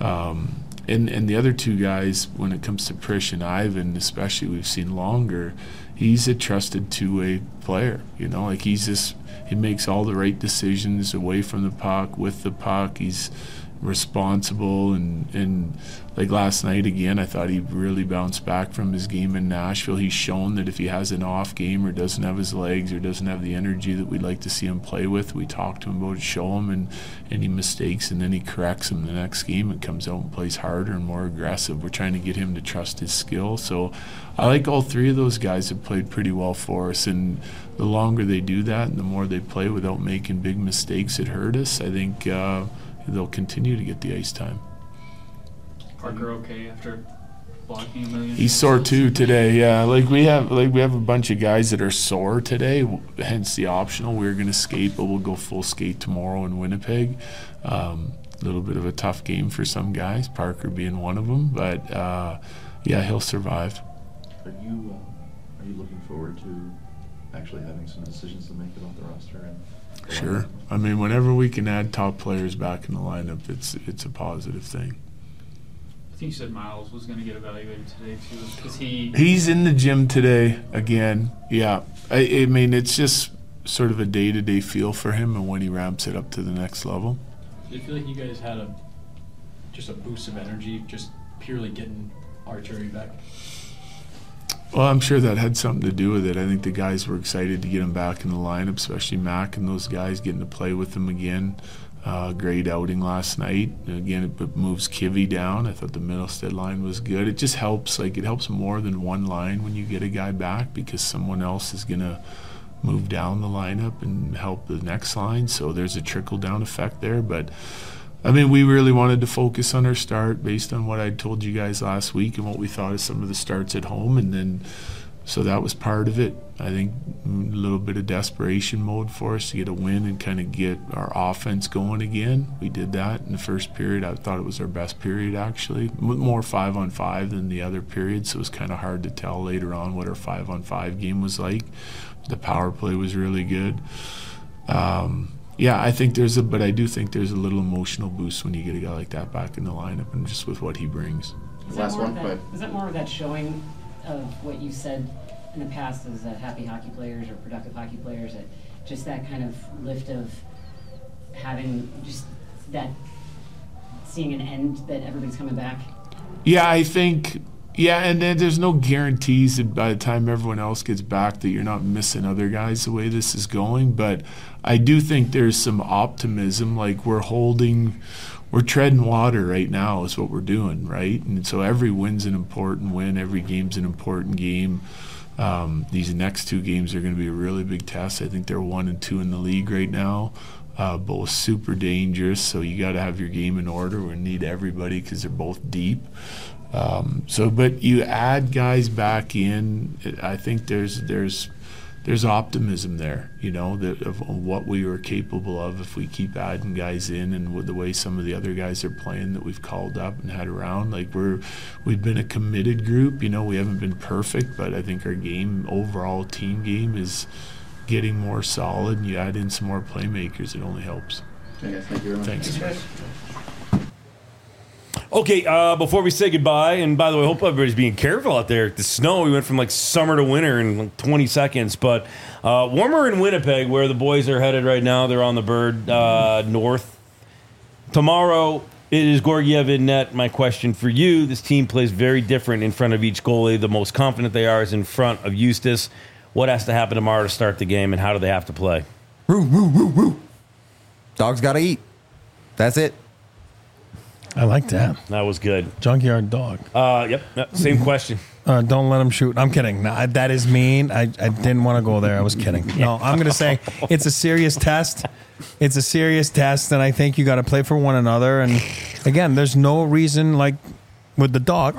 And the other two guys, when it comes to Prish and Ivan, especially, we've seen longer, he's a trusted two-way player. Like he makes all the right decisions away from the puck, with the puck. He's responsible, and like last night again, I thought he really bounced back from his game in Nashville. He's shown that if he has an off game or doesn't have his legs or doesn't have the energy that we'd like to see him play with, we talk to him about it, show him, and he mistakes, and then he corrects him the next game and comes out and plays harder and more aggressive. We're trying to get him to trust his skill. So I like all three of those guys have played pretty well for us, and the longer they do that and the more they play without making big mistakes that hurt us, I think they'll continue to get the ice time. Parker okay after blocking a million? He's sore too today. Yeah, we have a bunch of guys that are sore today. Hence the optional. We're going to skate, but we'll go full skate tomorrow in Winnipeg. A little bit of a tough game for some guys. Parker being one of them, but yeah, he'll survive. Are you looking forward to actually having some decisions to make it off the roster? Sure. I mean, whenever we can add top players back in the lineup, it's a positive thing. I think you said Miles was going to get evaluated today too. Is he? He's in the gym today again. Yeah. I mean, it's just sort of a day-to-day feel for him, and when he ramps it up to the next level. Do you feel like you guys had just a boost of energy, just purely getting Arturi back? Well, I'm sure that had something to do with it. I think the guys were excited to get him back in the lineup, especially Mac and those guys, getting to play with him again. Great outing last night. Again, it moves Kivy down. I thought the Middlestead line was good. It just helps. It helps more than one line when you get a guy back, because someone else is going to move down the lineup and help the next line. So there's a trickle-down effect there. But, I mean, we really wanted to focus on our start based on what I told you guys last week and what we thought of some of the starts at home. And then, so that was part of it. I think a little bit of desperation mode for us to get a win and kind of get our offense going again. We did that in the first period. I thought it was our best period, actually. More 5-on-5 than the other period, so it was kind of hard to tell later on what our 5-on-5 game was like. The power play was really good. Yeah, I think but I do think there's a little emotional boost when you get a guy like that back in the lineup, and just with what he brings. Is that more of that showing of what you said in the past as happy hockey players or productive hockey players, that just that kind of lift of having just that, seeing an end that everybody's coming back? Yeah, I think, and then there's no guarantees that by the time everyone else gets back that you're not missing other guys the way this is going, but I do think there's some optimism. Like we're treading water right now is what we're doing, right? And so every win's an important win, every game's an important game. These next two games are going to be a really big test. I think they're 1 and 2 in the league right now, both super dangerous. So you got to have your game in order. We need everybody because they're both deep. But you add guys back in. I think there's optimism there, of what we were capable of if we keep adding guys in, and with the way some of the other guys are playing that we've called up and had around. We've been a committed group. We haven't been perfect, but I think our overall team game is getting more solid, and you add in some more playmakers, it only helps. Okay, guys, thank you very much. Thanks. Okay, before we say goodbye, and by the way, I hope everybody's being careful out there. The snow, we went from summer to winter in 20 seconds, but warmer in Winnipeg, where the boys are headed right now. They're on the bird north. Tomorrow, it is Georgiev in net. My question for you, this team plays very different in front of each goalie. The most confident they are is in front of Eustace. what has to happen tomorrow to start the game, and how do they have to play? Woo, woo, woo, woo. Dogs got to eat. That's it. I like that. That was good. Junkyard dog. Yep. Same question. Don't let him shoot. I'm kidding. No, that is mean. I didn't want to go there. I was kidding. No, I'm going to say it's a serious test. It's a serious test, and I think you got to play for one another. And again, there's no reason, like with the dog,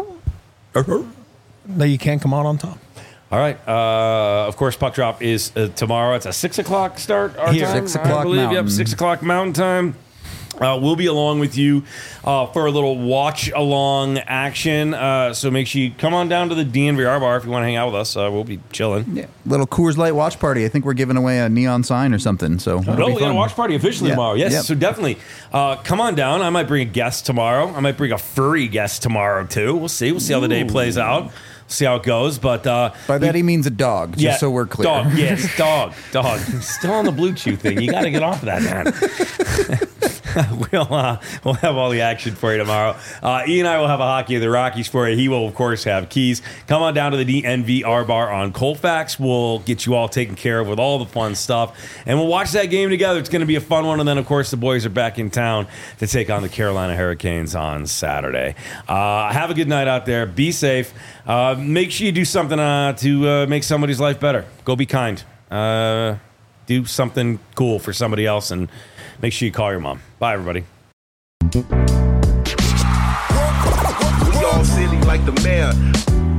that you can't come out on top. All right. Of course, puck drop is tomorrow. It's a 6 o'clock start. Our Here. time, 6 o'clock I believe. Mountain. Yep, 6 o'clock Mountain time. We'll be along with you for a little watch-along action. So make sure you come on down to the DNVR bar if you want to hang out with us. We'll be chilling. Yeah. Little Coors Light watch party. I think we're giving away a neon sign or something. So We got a watch party officially tomorrow. Yes, Yep. so definitely come on down. I might bring a guest tomorrow. I might bring a furry guest tomorrow, too. We'll see. We'll see how the day plays out. See how it goes. But by that he means a dog, just so we're clear. Dog, yes, dog. Still on the Blue Chew thing. You got to get off of that, man. We'll have all the action for you tomorrow. Ian and I will have a Hockey of the Rockies for you. He will, of course, have keys. Come on down to the DNVR bar on Colfax. We'll get you all taken care of with all the fun stuff. And we'll watch that game together. It's going to be a fun one. And then, of course, the boys are back in town to take on the Carolina Hurricanes on Saturday. Have a good night out there. Be safe. Make sure you do something to make somebody's life better. Go be kind. Do something cool for somebody else, and make sure you call your mom. Bye, everybody. We all silly like the mayor.